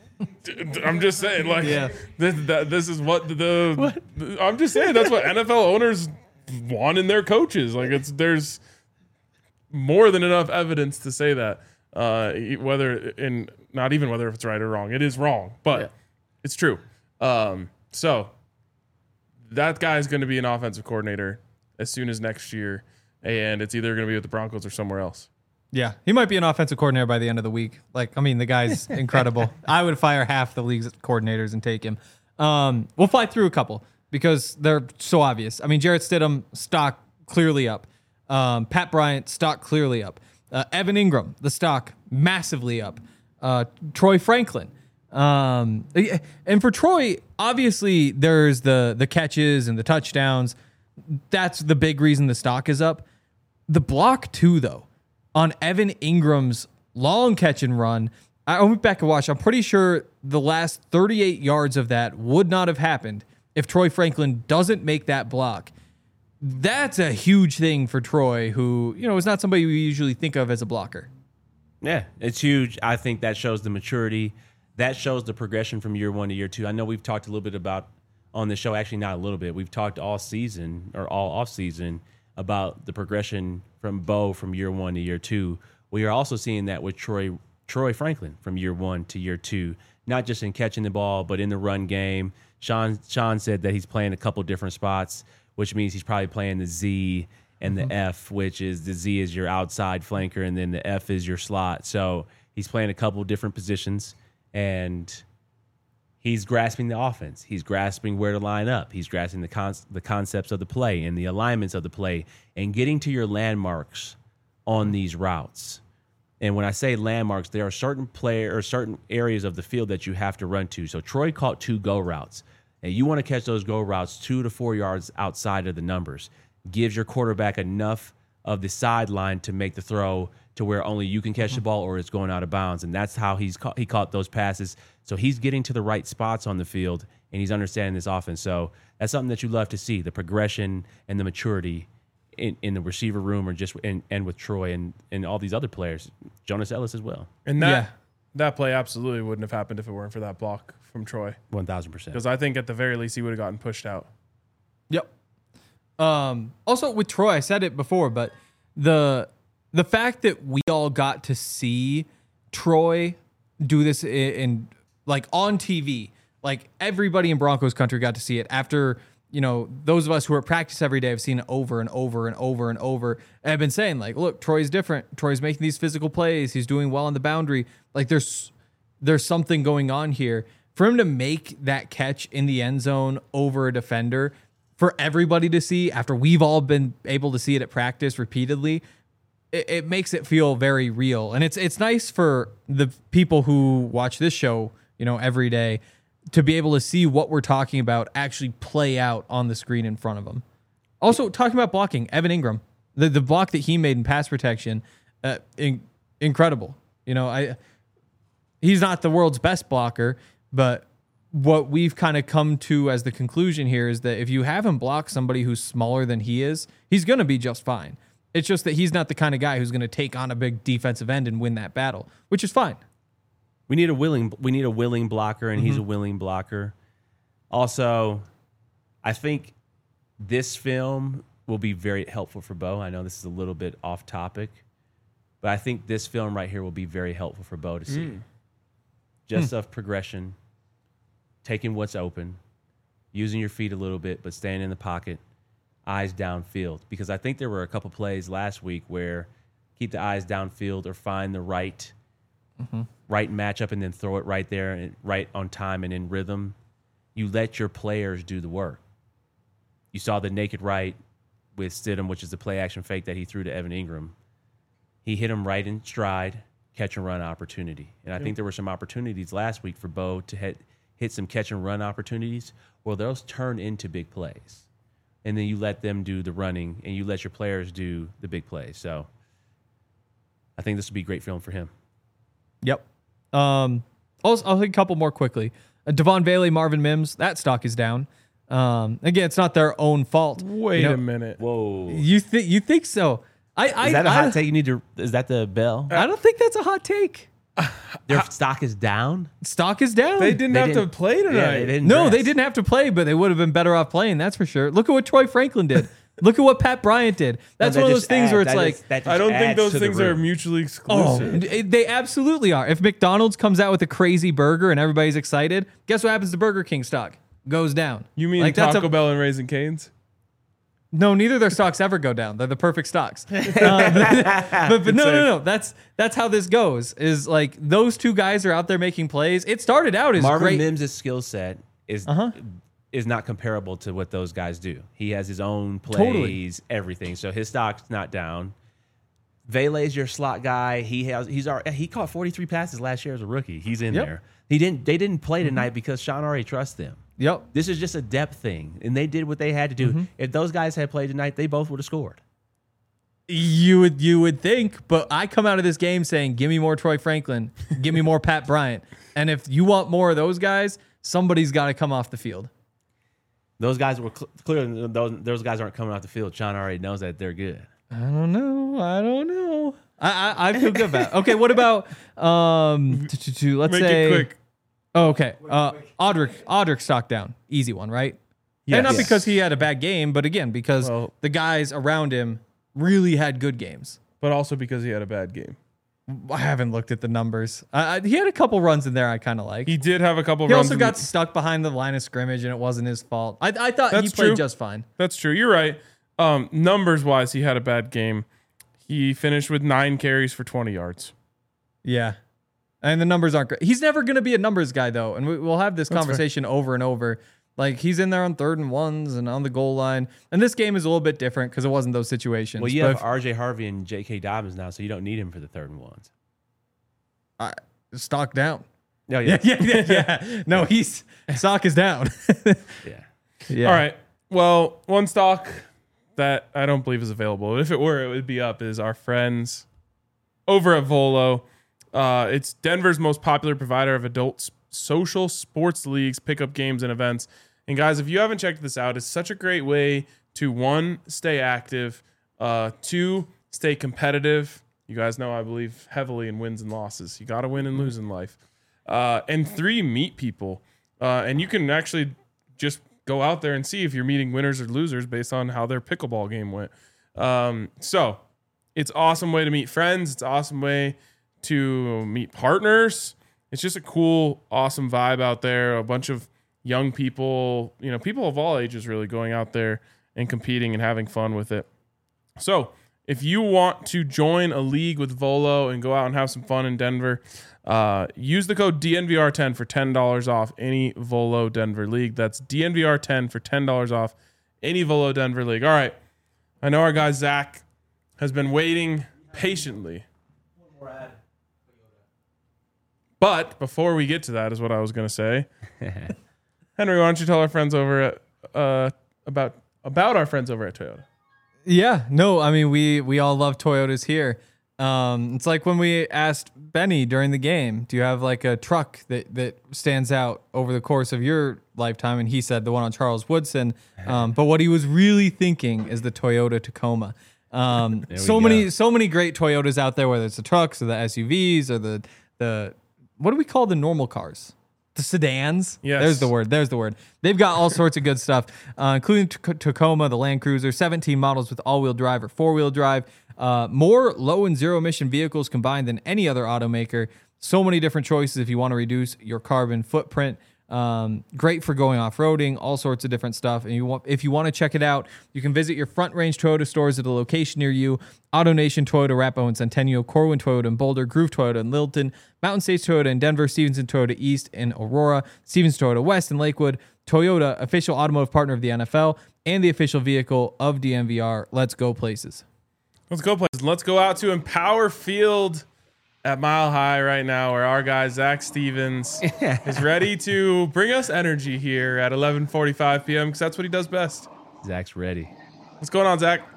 just saying, like, this is what I'm just saying that's what NFL owners want in their coaches. Like, there's more than enough evidence to say that. Not even whether it's right or wrong. It is wrong, but it's true. So that guy's going to be an offensive coordinator as soon as next year, and it's either going to be with the Broncos or somewhere else. Yeah, he might be an offensive coordinator by the end of the week. Like, I mean, the guy's incredible. I would fire half the league's coordinators and take him. We'll fly through a couple because they're so obvious. I mean, Jarrett Stidham, stock clearly up. Pat Bryant, stock clearly up. Evan Ingram, the stock massively up. Troy Franklin. And for Troy, obviously there's the catches and the touchdowns. That's the big reason the stock is up. The block too, though, on Evan Ingram's long catch and run. I went back and watched. I'm pretty sure the last 38 yards of that would not have happened if Troy Franklin doesn't make that block. That's a huge thing for Troy, who, is not somebody we usually think of as a blocker. Yeah, it's huge. I think that shows the maturity. That shows the progression from year one to year two. I know we've talked a little bit about on the show, actually not a little bit. We've talked all season or all off season about the progression from Bo from year one to year two. We are also seeing that with Troy Franklin from year one to year two, not just in catching the ball, but in the run game. Sean said that he's playing a couple different spots, which means he's probably playing the Z and the F, which is the Z is your outside flanker and then the F is your slot. So he's playing a couple different positions and he's grasping the offense. He's grasping where to line up. He's grasping the concepts of the play and the alignments of the play and getting to your landmarks on these routes. And when I say landmarks, there are certain areas of the field that you have to run to. So Troy caught 2 go routes. And you want to catch those go routes 2 to 4 yards outside of the numbers. Gives your quarterback enough of the sideline to make the throw to where only you can catch the ball or it's going out of bounds. And that's how he caught those passes. So he's getting to the right spots on the field, and he's understanding this offense. So that's something that you love to see, the progression and the maturity in the receiver room, or just and with Troy and all these other players, Jonas Ellis as well. And that play absolutely wouldn't have happened if it weren't for that block from Troy. 1,000%. Because I think at the very least he would have gotten pushed out. Yep. Also with Troy, I said it before, but the fact that we all got to see Troy do this in like on TV, like everybody in Broncos country got to see it after, those of us who are at practice every day have seen it over and over and over and over. And I've been saying, like, look, Troy's different. Troy's making these physical plays. He's doing well on the boundary. Like there's something going on here. For him to make that catch in the end zone over a defender, for everybody to see after we've all been able to see it at practice repeatedly, it makes it feel very real. And it's nice for the people who watch this show, every day, to be able to see what we're talking about actually play out on the screen in front of them. Also, talking about blocking, Evan Ingram, the block that he made in pass protection, incredible. He's not the world's best blocker, but what we've kind of come to as the conclusion here is that if you have him block somebody who's smaller than he is, he's going to be just fine. It's just that he's not the kind of guy who's going to take on a big defensive end and win that battle, which is fine. We need a willing blocker, and he's a willing blocker. Also, I think this film will be very helpful for Bo. I know this is a little bit off topic, but I think this film right here will be very helpful for Bo to see. Just of progression, taking what's open, using your feet a little bit, but staying in the pocket, eyes downfield. Because I think there were a couple plays last week where keep the eyes downfield or find the right matchup and then throw it right there and right on time and in rhythm. You let your players do the work. You saw the naked right with Stidham, which is the play action fake that he threw to Evan Ingram. He hit him right in stride, catch and run opportunity. And I think there were some opportunities last week for Bo to hit some catch and run opportunities. Well, those turn into big plays. And then you let them do the running and you let your players do the big plays. So I think this would be a great film for him. Yep. I'll think a couple more quickly. Devon Bailey, Marvin Mims, that stock is down. Again, it's not their own fault. Wait a minute. Whoa. You think so? Is that a hot take? Is that the bell? I don't think that's a hot take. Their stock is down? Stock is down. They didn't have to play tonight. They didn't have to play, but they would have been better off playing. That's for sure. Look at what Troy Franklin did. Look at what Pat Bryant did. That's one of those things where it's like, I don't think those things are mutually exclusive. They absolutely are. If McDonald's comes out with a crazy burger and everybody's excited, guess what happens to Burger King stock? Goes down. You mean like Taco Bell and Raising Cane's? No, neither of their stocks ever go down. They're the perfect stocks. But no. That's how this goes. Is like those two guys are out there making plays. It started out as Marvin great. Mims' skill set is not comparable to what those guys do. He has his own plays, everything. So his stock's not down. Vele's your slot guy. He caught 43 passes last year as a rookie. He's in there. They didn't play tonight because Sean already trusts them. Yep. This is just a depth thing, and they did what they had to do. If those guys had played tonight, they both would have scored. You would think, but I come out of this game saying, "Give me more Troy Franklin, give me more Pat Bryant," and if you want more of those guys, somebody's got to come off the field. Those guys were clearly those guys aren't coming off the field. Sean already knows that they're good. I don't know. I feel good about it. Okay, what about let's Make say it quick. Oh, okay. Audric stock down. Easy one, right? Yes. And not because he had a bad game, but again, because the guys around him really had good games. But also because he had a bad game. I haven't looked at the numbers. He had a couple runs in there I kind of like. He did have a couple He runs. also got stuck behind the line of scrimmage, and it wasn't his fault. I thought he played just fine. That's true. You're right. Numbers-wise, he had a bad game. He finished with 9 carries for 20 yards. Yeah. And the numbers aren't great. He's never going to be a numbers guy, though. And we'll have this conversation over and over. Like, he's in there on 3rd and 1s and on the goal line. And this game is a little bit different because it wasn't those situations. Well, you have R.J. Harvey and J.K. Dobbins now, so you don't need him for the 3rd and 1s. Stock down. Oh, yeah. Yeah. No, stock is down. Yeah. All right. Well, one stock that I don't believe is available. If it were, it would be up, is our friends over at Volo. It's Denver's most popular provider of adult social sports leagues, pickup games, and events. And guys, if you haven't checked this out, it's such a great way to, one, stay active, two, stay competitive. You guys know I believe heavily in wins and losses. You got to win and lose in life. And three, meet people. And you can actually just go out there and see if you're meeting winners or losers based on how their pickleball game went. So it's an awesome way to meet friends. It's an awesome way to meet partners. It's just a cool, awesome vibe out there. A bunch of young people, people of all ages really going out there and competing and having fun with it. So if you want to join a league with Volo and go out and have some fun in Denver, use the code DNVR10 for $10 off any Volo Denver league. That's DNVR10 for $10 off any Volo Denver league. All right. I know our guy Zach has been waiting patiently. But before we get to that is what I was going to say. Henry, why don't you tell our friends over at about our friends over at Toyota? Yeah, no, I mean we all love Toyotas here. It's like when we asked Benny during the game, do you have like a truck that stands out over the course of your lifetime? And he said the one on Charles Woodson. But what he was really thinking is the Toyota Tacoma. So many great Toyotas out there, whether it's the trucks or the SUVs or the what do we call the normal cars? The sedans. Yes. There's the word. They've got all sorts of good stuff, including Tacoma, the Land Cruiser, 17 models with all-wheel drive or four-wheel drive. More low and zero-emission vehicles combined than any other automaker. So many different choices if you want to reduce your carbon footprint. Great for going off-roading, all sorts of different stuff. And if you want to check it out, you can visit your Front Range Toyota stores at a location near you. AutoNation Toyota, Arapahoe and Centennial, Corwin Toyota in Boulder, Groove Toyota in Littleton, Mountain States Toyota in Denver, Stevenson Toyota East in Aurora, Stevens Toyota West in Lakewood. Toyota, official automotive partner of the NFL, and the official vehicle of DNVR. Let's go places. Let's go places. Let's go out to Empower Field at Mile High right now, where our guy Zach Stevens is ready to bring us energy here at 11:45 p.m. because that's what he does best. Zach's ready. What's going on, Zach?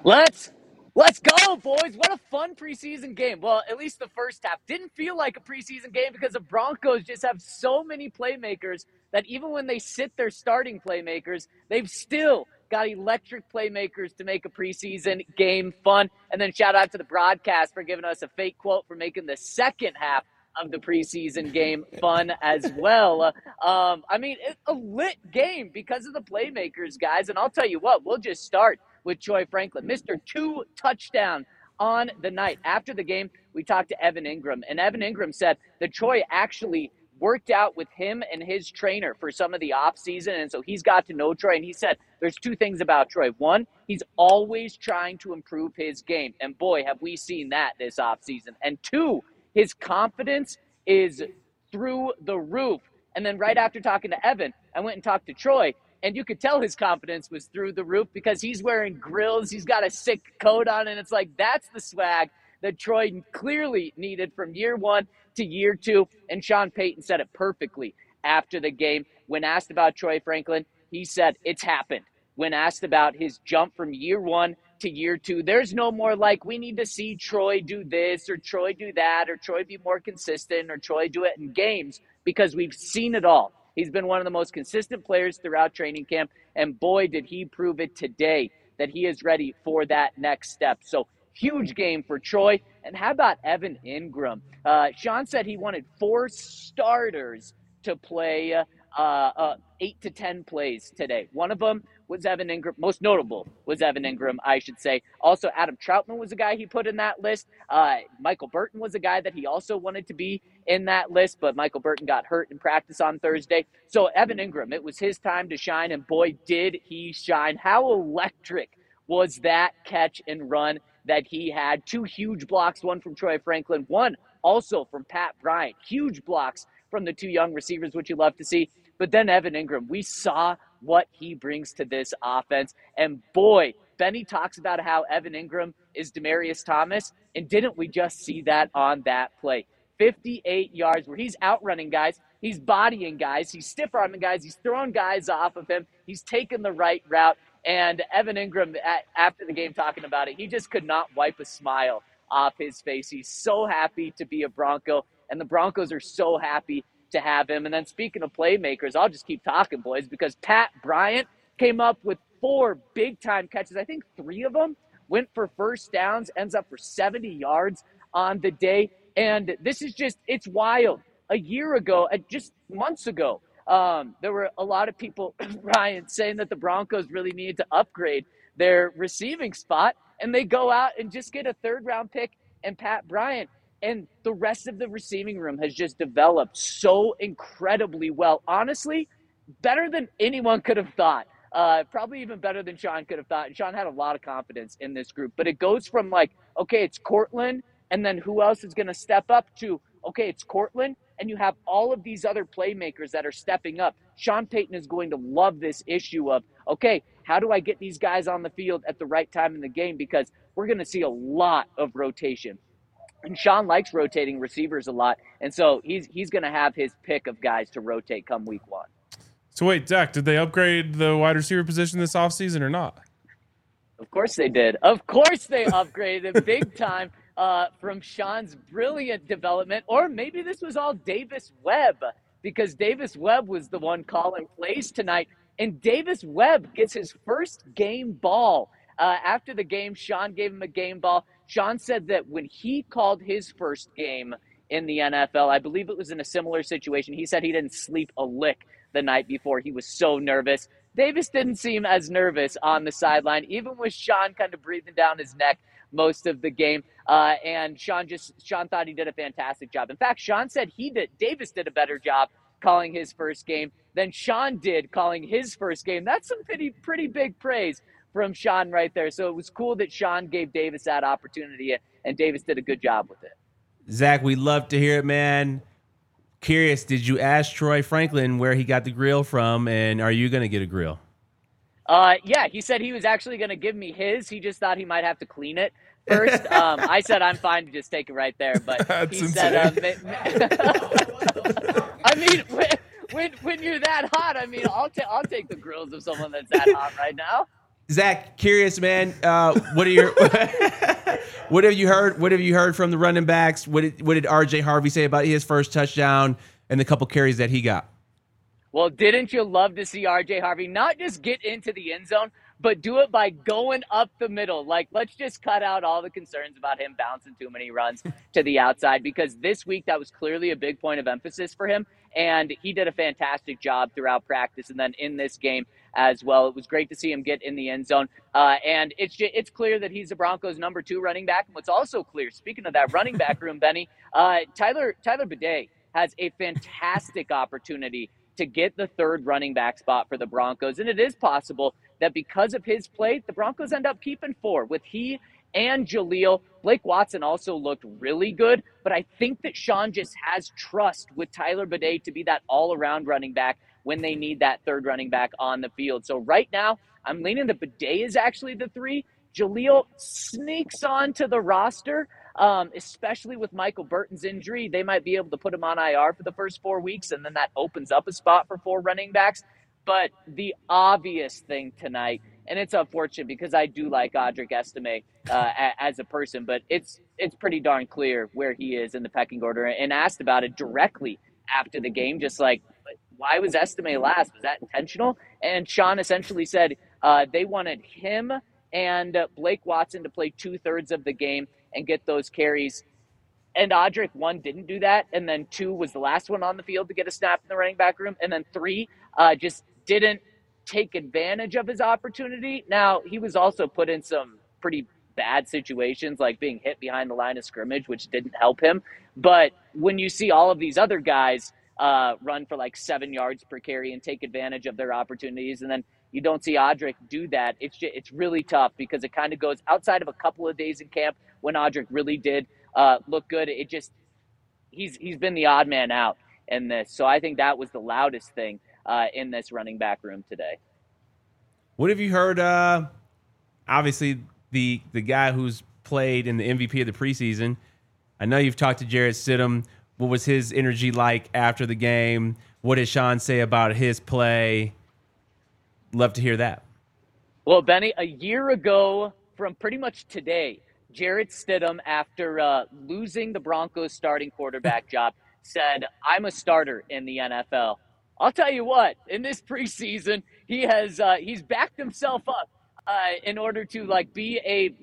Let's go, boys. What a fun preseason game. Well, at least the first half didn't feel like a preseason game because the Broncos just have so many playmakers that even when they sit their starting playmakers, they've still got electric playmakers to make a preseason game fun. And then shout out to the broadcast for giving us a fake quote for making the second half of the preseason game fun as well. I mean, it's a lit game because of the playmakers, guys. And I'll tell you what, we'll just start with Troy Franklin, Mr. 2 touchdown on the night. After the game, we talked to Evan Ingram, and Evan Ingram said that Troy actually worked out with him and his trainer for some of the off season, and so he's got to know Troy. And he said there's two things about Troy. One, he's always trying to improve his game, and boy, have we seen that this off season. And two, his confidence is through the roof. And then right after talking to Evan, I went and talked to Troy, and you could tell his confidence was through the roof because he's wearing grills. He's got a sick coat on, and it's like that's the swag that Troy clearly needed from year one to year two. And Sean Payton said it perfectly after the game. When asked about Troy Franklin, he said, it's happened. When asked about his jump from year one to year two, there's no more like, we need to see Troy do this or Troy do that or Troy be more consistent or Troy do it in games because we've seen it all. He's been one of the most consistent players throughout training camp, and boy, did he prove it today that he is ready for that next step. So huge game for Troy. And how about Evan Ingram? Sean said he wanted 4 starters to play 8 to 10 plays today. One of them was Evan Ingram. Most notable was Evan Ingram, I should say. Also, Adam Troutman was a guy he put in that list. Michael Burton was a guy that he also wanted to be in that list, but Michael Burton got hurt in practice on Thursday. So Evan Ingram, it was his time to shine, and boy, did he shine. How electric was that catch and run that he had? 2 huge blocks, one from Troy Franklin, one also from Pat Bryant. Huge blocks from the 2 young receivers, which you love to see. But then Evan Ingram, we saw what he brings to this offense. And boy, Benny talks about how Evan Ingram is Demaryius Thomas. And didn't we just see that on that play? 58 yards where he's outrunning guys. He's bodying guys. He's stiff-arming guys. He's throwing guys off of him. He's taking the right route. And Evan Ingram, after the game talking about it, he just could not wipe a smile off his face. He's so happy to be a Bronco, and the Broncos are so happy to have him. And then speaking of playmakers, I'll just keep talking, boys, because Pat Bryant came up with 4 big-time catches. I think 3 of them went for first downs, ends up for 70 yards on the day. And this is just, it's wild. A year ago, just months ago, there were a lot of people, Ryan, saying that the Broncos really needed to upgrade their receiving spot, and they go out and just get a 3rd-round pick and Pat Bryant. And the rest of the receiving room has just developed so incredibly well. Honestly, better than anyone could have thought. Probably even better than Sean could have thought. And Sean had a lot of confidence in this group. But it goes from like, okay, it's Cortland, and then who else is going to step up, to, okay, it's Cortland, and you have all of these other playmakers that are stepping up. Sean Payton is going to love this issue of, okay, how do I get these guys on the field at the right time in the game? Because we're going to see a lot of rotation. And Sean likes rotating receivers a lot, and so he's going to have his pick of guys to rotate come week 1. So wait, Zach, did they upgrade the wide receiver position this offseason or not? Of course they did. Of course they upgraded big time from Sean's brilliant development. Or maybe this was all Davis Webb, because Davis Webb was the one calling plays tonight. And Davis Webb gets his first game ball. After the game, Sean gave him a game ball. Sean said that when he called his first game in the NFL, I believe it was in a similar situation, he said he didn't sleep a lick the night before. He was so nervous. Davis didn't seem as nervous on the sideline, even with Sean kind of breathing down his neck most of the game. And Sean thought he did a fantastic job. In fact, Sean said Davis did a better job calling his first game than Sean did calling his first game. That's some pretty big praise from Sean right there. So it was cool that Sean gave Davis that opportunity, and Davis did a good job with it. Zach, we love to hear it, man. Curious, did you ask Troy Franklin where he got the grill from, and are you going to get a grill? Yeah, he said he was actually going to give me his. He just thought he might have to clean it first. I said I'm fine to just take it right there, but That's he said, I mean, when you're that hot, I mean, I'll take the grills of someone that's that hot right now. Zach, curious, man. What have you heard? What have you heard from the running backs? What did RJ Harvey say about his first touchdown and the couple carries that he got? Well, didn't you love to see RJ Harvey not just get into the end zone, but do it by going up the middle? Like, let's just cut out all the concerns about him bouncing too many runs to the outside, because this week that was clearly a big point of emphasis for him, and he did a fantastic job throughout practice and then in this game as well. It was great to see him get in the end zone, and it's clear that he's the Broncos' number 2 running back. And what's also clear, speaking of that running back room, Benny, Tyler Bidet has a fantastic opportunity to get the 3rd running back spot for the Broncos. And it is possible that because of his play, the Broncos end up keeping 4 with he and Jaleel. Blake Watson also looked really good, but I think that Sean just has trust with Tyler Bidet to be that all-around running back when they need that 3rd running back on the field. So right now, I'm leaning that Bidet is actually the 3. Jaleel sneaks onto the roster, especially with Michael Burton's injury. They might be able to put him on IR for the first 4 weeks, and then that opens up a spot for 4 running backs. But the obvious thing tonight, and it's unfortunate because I do like Audric Estime as a person, but it's pretty darn clear where he is in the pecking order, and asked about it directly after the game, just like, why was Estime last? Was that intentional? And Sean essentially said they wanted him and Blake Watson to play 2/3 of the game and get those carries. And Audric, 1, didn't do that. And then 2 was the last one on the field to get a snap in the running back room. And then 3 just didn't take advantage of his opportunity. Now, he was also put in some pretty bad situations, like being hit behind the line of scrimmage, which didn't help him. But when you see all of these other guys run for like 7 yards per carry and take advantage of their opportunities, and then you don't see Audric do that, it's really tough, because it kind of goes outside of a couple of days in camp when Audric really did look good. He's been the odd man out in this. So I think that was the loudest thing in this running back room today. What have you heard? Obviously, the guy who's played in the MVP of the preseason. I know you've talked to Jarrett Stidham. What was his energy like after the game? What did Sean say about his play? Love to hear that. Well, Benny, a year ago from pretty much today, Jarrett Stidham, after losing the Broncos starting quarterback job, said, "I'm a starter in the NFL." I'll tell you what, in this preseason, he's backed himself up in order to like be a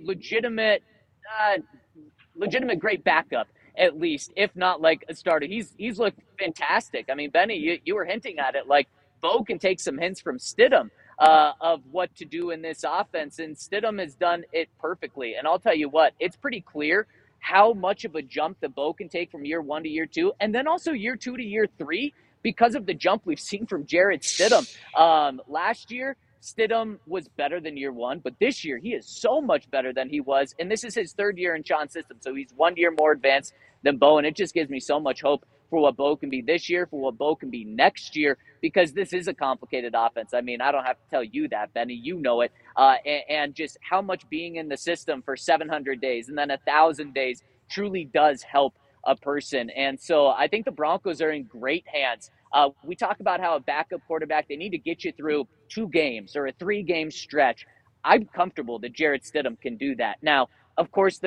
legitimate great backup, at least, if not like a starter. He's looked fantastic. I mean, Benny, you were hinting at it. Like, Bo can take some hints from Stidham of what to do in this offense, and Stidham has done it perfectly. And I'll tell you what, it's pretty clear how much of a jump that Bo can take from year 1 to year 2, and then also year 2 to year 3, because of the jump we've seen from Jarrett Stidham. Last year, Stidham was better than year 1, but this year he is so much better than he was. And this is his 3rd year in Sean's system. So he's 1 year more advanced than Bo. And it just gives me so much hope for what Bo can be this year, for what Bo can be next year, because this is a complicated offense. I mean, I don't have to tell you that, Benny, you know it. And just how much being in the system for 700 days and then 1,000 days truly does help a person. And so I think the Broncos are in great hands. We talk about how a backup quarterback, they need to get you through 2 games or a 3-game stretch. I'm comfortable that Jarrett Stidham can do that. Now, of course,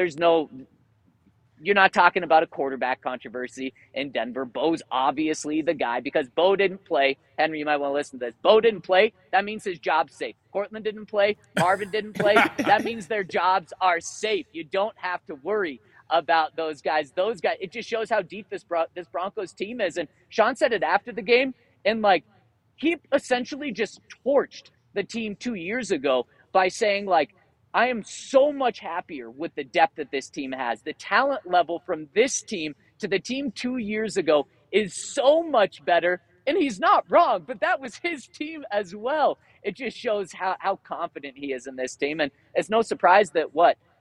you're not talking about a quarterback controversy in Denver. Bo's obviously the guy because Bo didn't play. Henry, you might want to listen to this. Bo didn't play. That means his job's safe. Cortland didn't play. Marvin didn't play. That means their jobs are safe. You don't have to worry about those guys. It just shows how deep this Broncos team is. And Sean said it after the game, and like, he essentially just torched the team 2 years ago by saying, like, I am so much happier with the depth that this team has. The talent level from this team to the team 2 years ago is so much better. And he's not wrong, but that was his team as well. It just shows how confident he is in this team. And it's no surprise that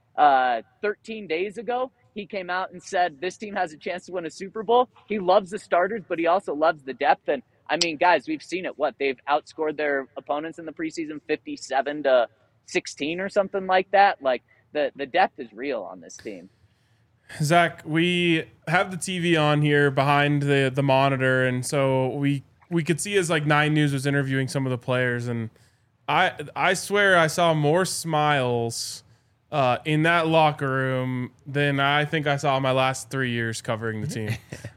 13 days ago, he came out and said this team has a chance to win a Super Bowl. He loves the starters, but he also loves the depth. And I mean, guys, we've seen it. They've outscored their opponents in the preseason 57-16 or something like that. Like, the depth is real on this team. Zach, we have the TV on here behind the monitor, and so we could see as like 9 News was interviewing some of the players, and I swear I saw more smiles in that locker room than I think I saw in my last 3 years covering the team,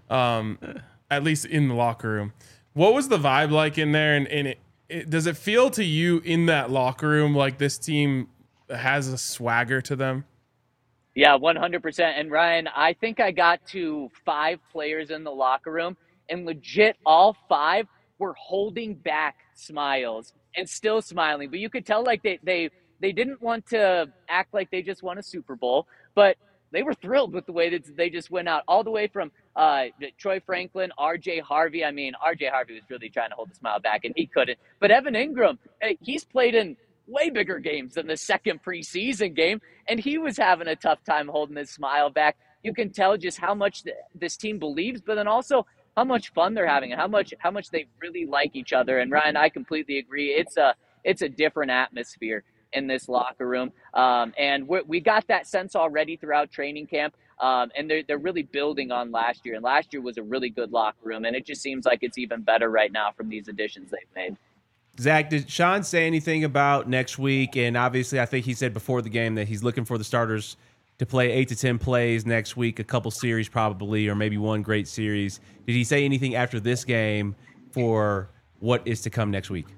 at least in the locker room. What was the vibe like in there? And does it feel to you in that locker room like this team has a swagger to them? Yeah, 100%. And Ryan, I think I got to 5 players in the locker room, and legit all 5 were holding back smiles and still smiling. But you could tell like they didn't want to act like they just won a Super Bowl, but they were thrilled with the way that they just went out, all the way from Troy Franklin, RJ Harvey. I mean, RJ Harvey was really trying to hold the smile back, and he couldn't. But Evan Ingram, he's played in way bigger games than the second preseason game, and he was having a tough time holding his smile back. You can tell just how much this team believes, but then also how much fun they're having and how much they really like each other. And Ryan, I completely agree. It's a different atmosphere in this locker room. And we got that sense already throughout training camp. And they're really building on last year. And last year was a really good locker room. And it just seems like it's even better right now from these additions they've made. Zach, did Sean say anything about next week? And obviously, I think he said before the game that he's looking for the starters to play 8 to 10 plays next week, a couple series probably, or maybe one great series. Did he say anything after this game for what is to come next week?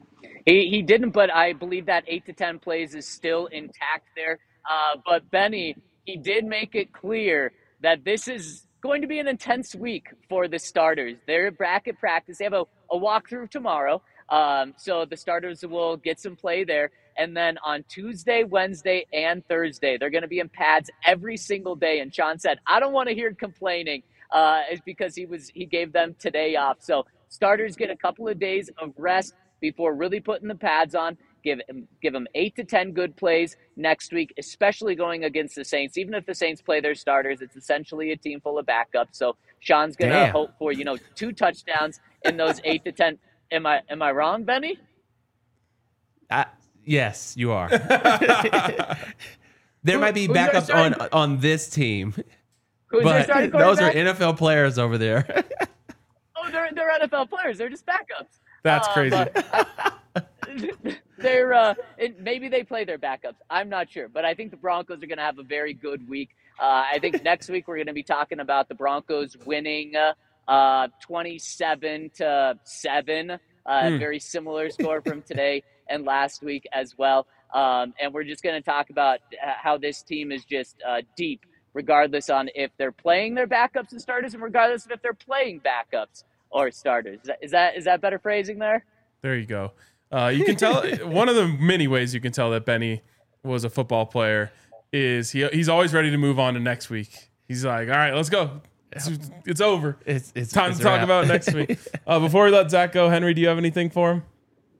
He didn't, but I believe that 8 to 10 plays is still intact there. But Benny, he did make it clear that this is going to be an intense week for the starters. They're at bracket practice. They have a walkthrough tomorrow. So the starters will get some play there. And then on Tuesday, Wednesday, and Thursday, they're going to be in pads every single day. And Sean said, I don't want to hear complaining, is because he gave them today off. So starters get a couple of days of rest before really putting the pads on. Give them 8 to 10 good plays next week, especially going against the Saints. Even if the Saints play their starters, it's essentially a team full of backups. So Sean's going to hope for, 2 touchdowns in those 8 to 10. Am I wrong, Benny? Yes, you are. There might be backups on this team, but those are NFL players over there. Oh, they're NFL players. They're just backups. That's crazy. maybe they play their backups. I'm not sure, but I think the Broncos are going to have a very good week. I think next week we're going to be talking about the Broncos winning 27-7, very similar score from today and last week as well. And we're just going to talk about how this team is just deep, regardless on if they're playing their backups and starters, and regardless of if they're playing backups or starters. Is that better phrasing there? There you go. You can tell one of the many ways you can tell that Benny was a football player is he's always ready to move on to next week. He's like, all right, let's go. It's over. It's time to talk about next week. Before we let Zach go, Henry, do you have anything for him?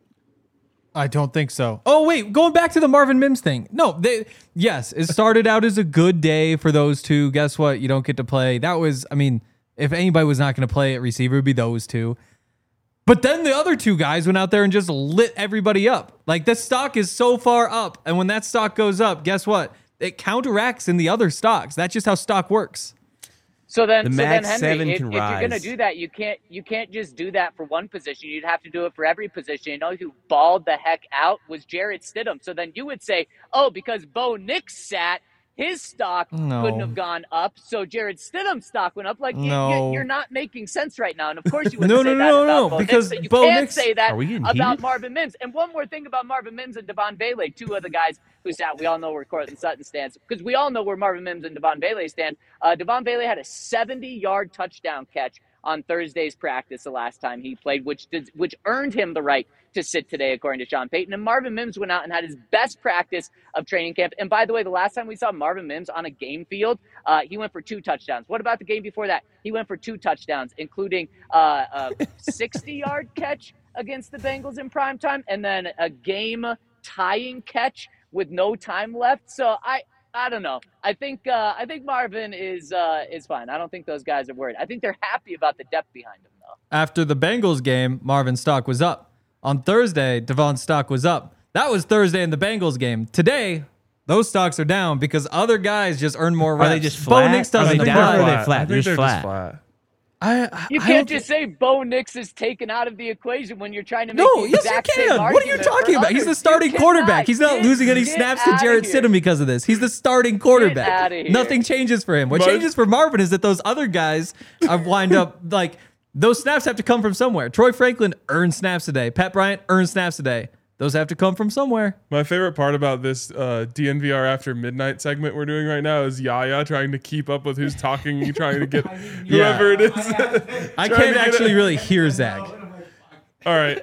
I don't think so. Oh, wait, going back to the Marvin Mims thing. No, yes, it started out as a good day for those two. Guess what? You don't get to play. That was, I mean, if anybody was not going to play at receiver, it would be those two. But then the other two guys went out there and just lit everybody up. Like, the stock is so far up. And when that stock goes up, guess what? It counteracts in the other stocks. That's just how stock works. So then, Max Henry, 7 if can you're rise. going to do that, you can't just do that for one position. You'd have to do it for every position. You know who balled the heck out was Jarrett Stidham. So then you would say, oh, because Bo Nix sat, his stock couldn't have gone up. So Jarrett Stidham's stock went up. Like you're not making sense right now. And of course you wouldn't say that about Bo because Nix. So you Bo can't Nix, say that about about Marvin Mims. And one more thing about Marvin Mims and Devon Bailey, two of the guys who sat. We all know where Cortland Sutton stands because we all know where Marvin Mims and Devon Bailey stand. Devon Bailey had a 70-yard touchdown catch on Thursday's practice the last time he played, which earned him the right to sit today, according to Sean Payton. And Marvin Mims went out and had his best practice of training camp. And by the way, the last time we saw Marvin Mims on a game field, he went for 2 touchdowns. What about the game before that? He went for 2 touchdowns, including a 60-yard catch against the Bengals in prime time, and then a game-tying catch with no time left. So I don't know. I think Marvin is fine. I don't think those guys are worried. I think they're happy about the depth behind him, though. After the Bengals game, Marvin's stock was up. On Thursday, Devon's stock was up. That was Thursday in the Bengals game. Today, those stocks are down because other guys just earn more reps. Are they just flat? Bo Nix doesn't Are they down apply. or are they flat? I think They're they're just just flat. You can't just say Bo Nix is taken out of the equation when you're trying to make No, the yes, you exact same can. What are you argument talking for about? He's the others. starting You quarterback. cannot. He's not losing any Get snaps to outta Jarrett here. Stidham because of this. He's the starting outta quarterback. here. Nothing changes for him. What changes for Marvin is that those other guys are wind up like those snaps have to come from somewhere. Troy Franklin earned snaps today. Pat Bryant earned snaps today. Those have to come from somewhere. My favorite part about this DNVR After Midnight segment we're doing right now is Yaya trying to keep up with who's talking, trying to get whoever it is. I Trying can't to actually really hear Zach. All right,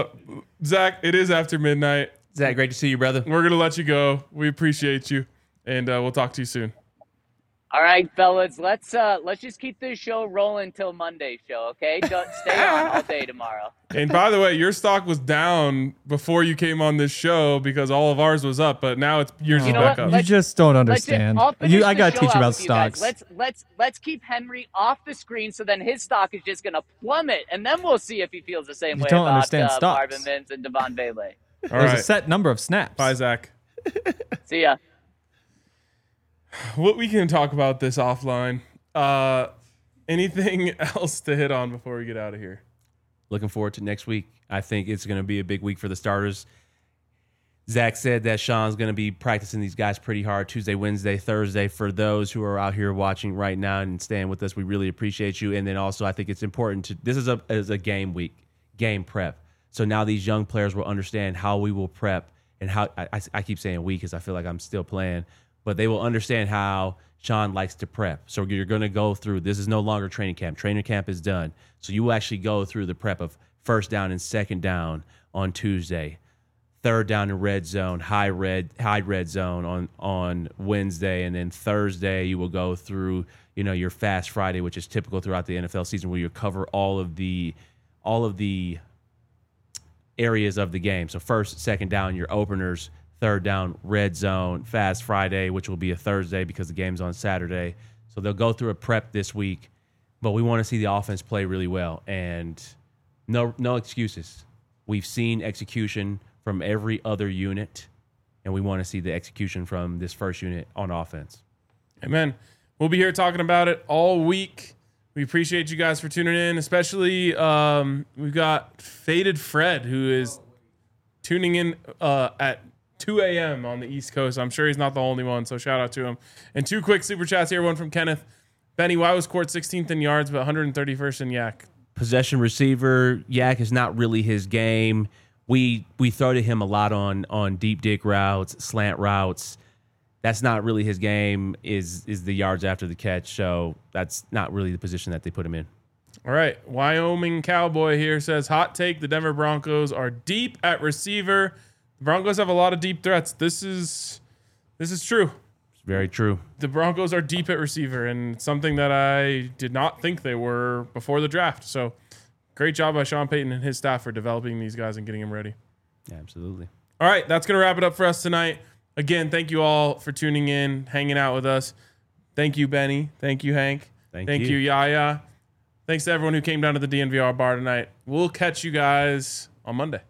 Zach, it is after midnight. Zach, great to see you, brother. We're going to let you go. We appreciate you, and we'll talk to you soon. All right, fellas, let's just keep this show rolling till Monday's show, okay? Don't stay on all day tomorrow. And by the way, your stock was down before you came on this show because all of ours was up, but now yours is You know back what? up. You just don't understand. I'll finish I the gotta show teach you out about with guys. stocks. Let's keep Henry off the screen so then his stock is just gonna plummet, and then we'll see if he feels the same You way don't about understand stocks. Marvin Mims and Devon Bailey. All There's right. a set number of snaps. Bye, Zach. See ya. What we can talk about this offline. Anything else to hit on before we get out of here? Looking forward to next week. I think it's going to be a big week for the starters. Zach said that Sean's going to be practicing these guys pretty hard Tuesday, Wednesday, Thursday. For those who are out here watching right now and staying with us, we really appreciate you. And then also, I think it's important to this is a game week, game prep. So now these young players will understand how we will prep and how I keep saying we because I feel like I'm still playing, but they will understand how Sean likes to prep. So you're going to go through, this is no longer training camp. Training camp is done. So you will actually go through the prep of first down and second down on Tuesday, third down in red zone, high red zone on Wednesday, and then Thursday you will go through, your Fast Friday, which is typical throughout the NFL season, where you cover all of the areas of the game. So first, second down, your openers, third down, red zone, Fast Friday, which will be a Thursday because the game's on Saturday. So they'll go through a prep this week, but we want to see the offense play really well, and no excuses. We've seen execution from every other unit, and we want to see the execution from this first unit on offense. Amen. We'll be here talking about it all week. We appreciate you guys for tuning in, especially we've got Faded Fred, who is tuning in at 2 a.m. on the East Coast. I'm sure he's not the only one, so shout out to him. And 2 quick super chats here. One from Kenneth. Benny, why was Court 16th in yards but 131st in yak? Possession receiver. Yak is not really his game. We throw to him a lot on deep dig routes, slant routes. That's not really his game, is the yards after the catch. So that's not really the position that they put him in. All right. Wyoming Cowboy here says, hot take, the Denver Broncos are deep at receiver. The Broncos have a lot of deep threats. This is true. It's very true. The Broncos are deep at receiver, and it's something that I did not think they were before the draft. So great job by Sean Payton and his staff for developing these guys and getting them ready. Yeah, absolutely. All right, that's going to wrap it up for us tonight. Again, thank you all for tuning in, hanging out with us. Thank you, Benny. Thank you, Hank. Thank you, Yaya. Thanks to everyone who came down to the DNVR bar tonight. We'll catch you guys on Monday.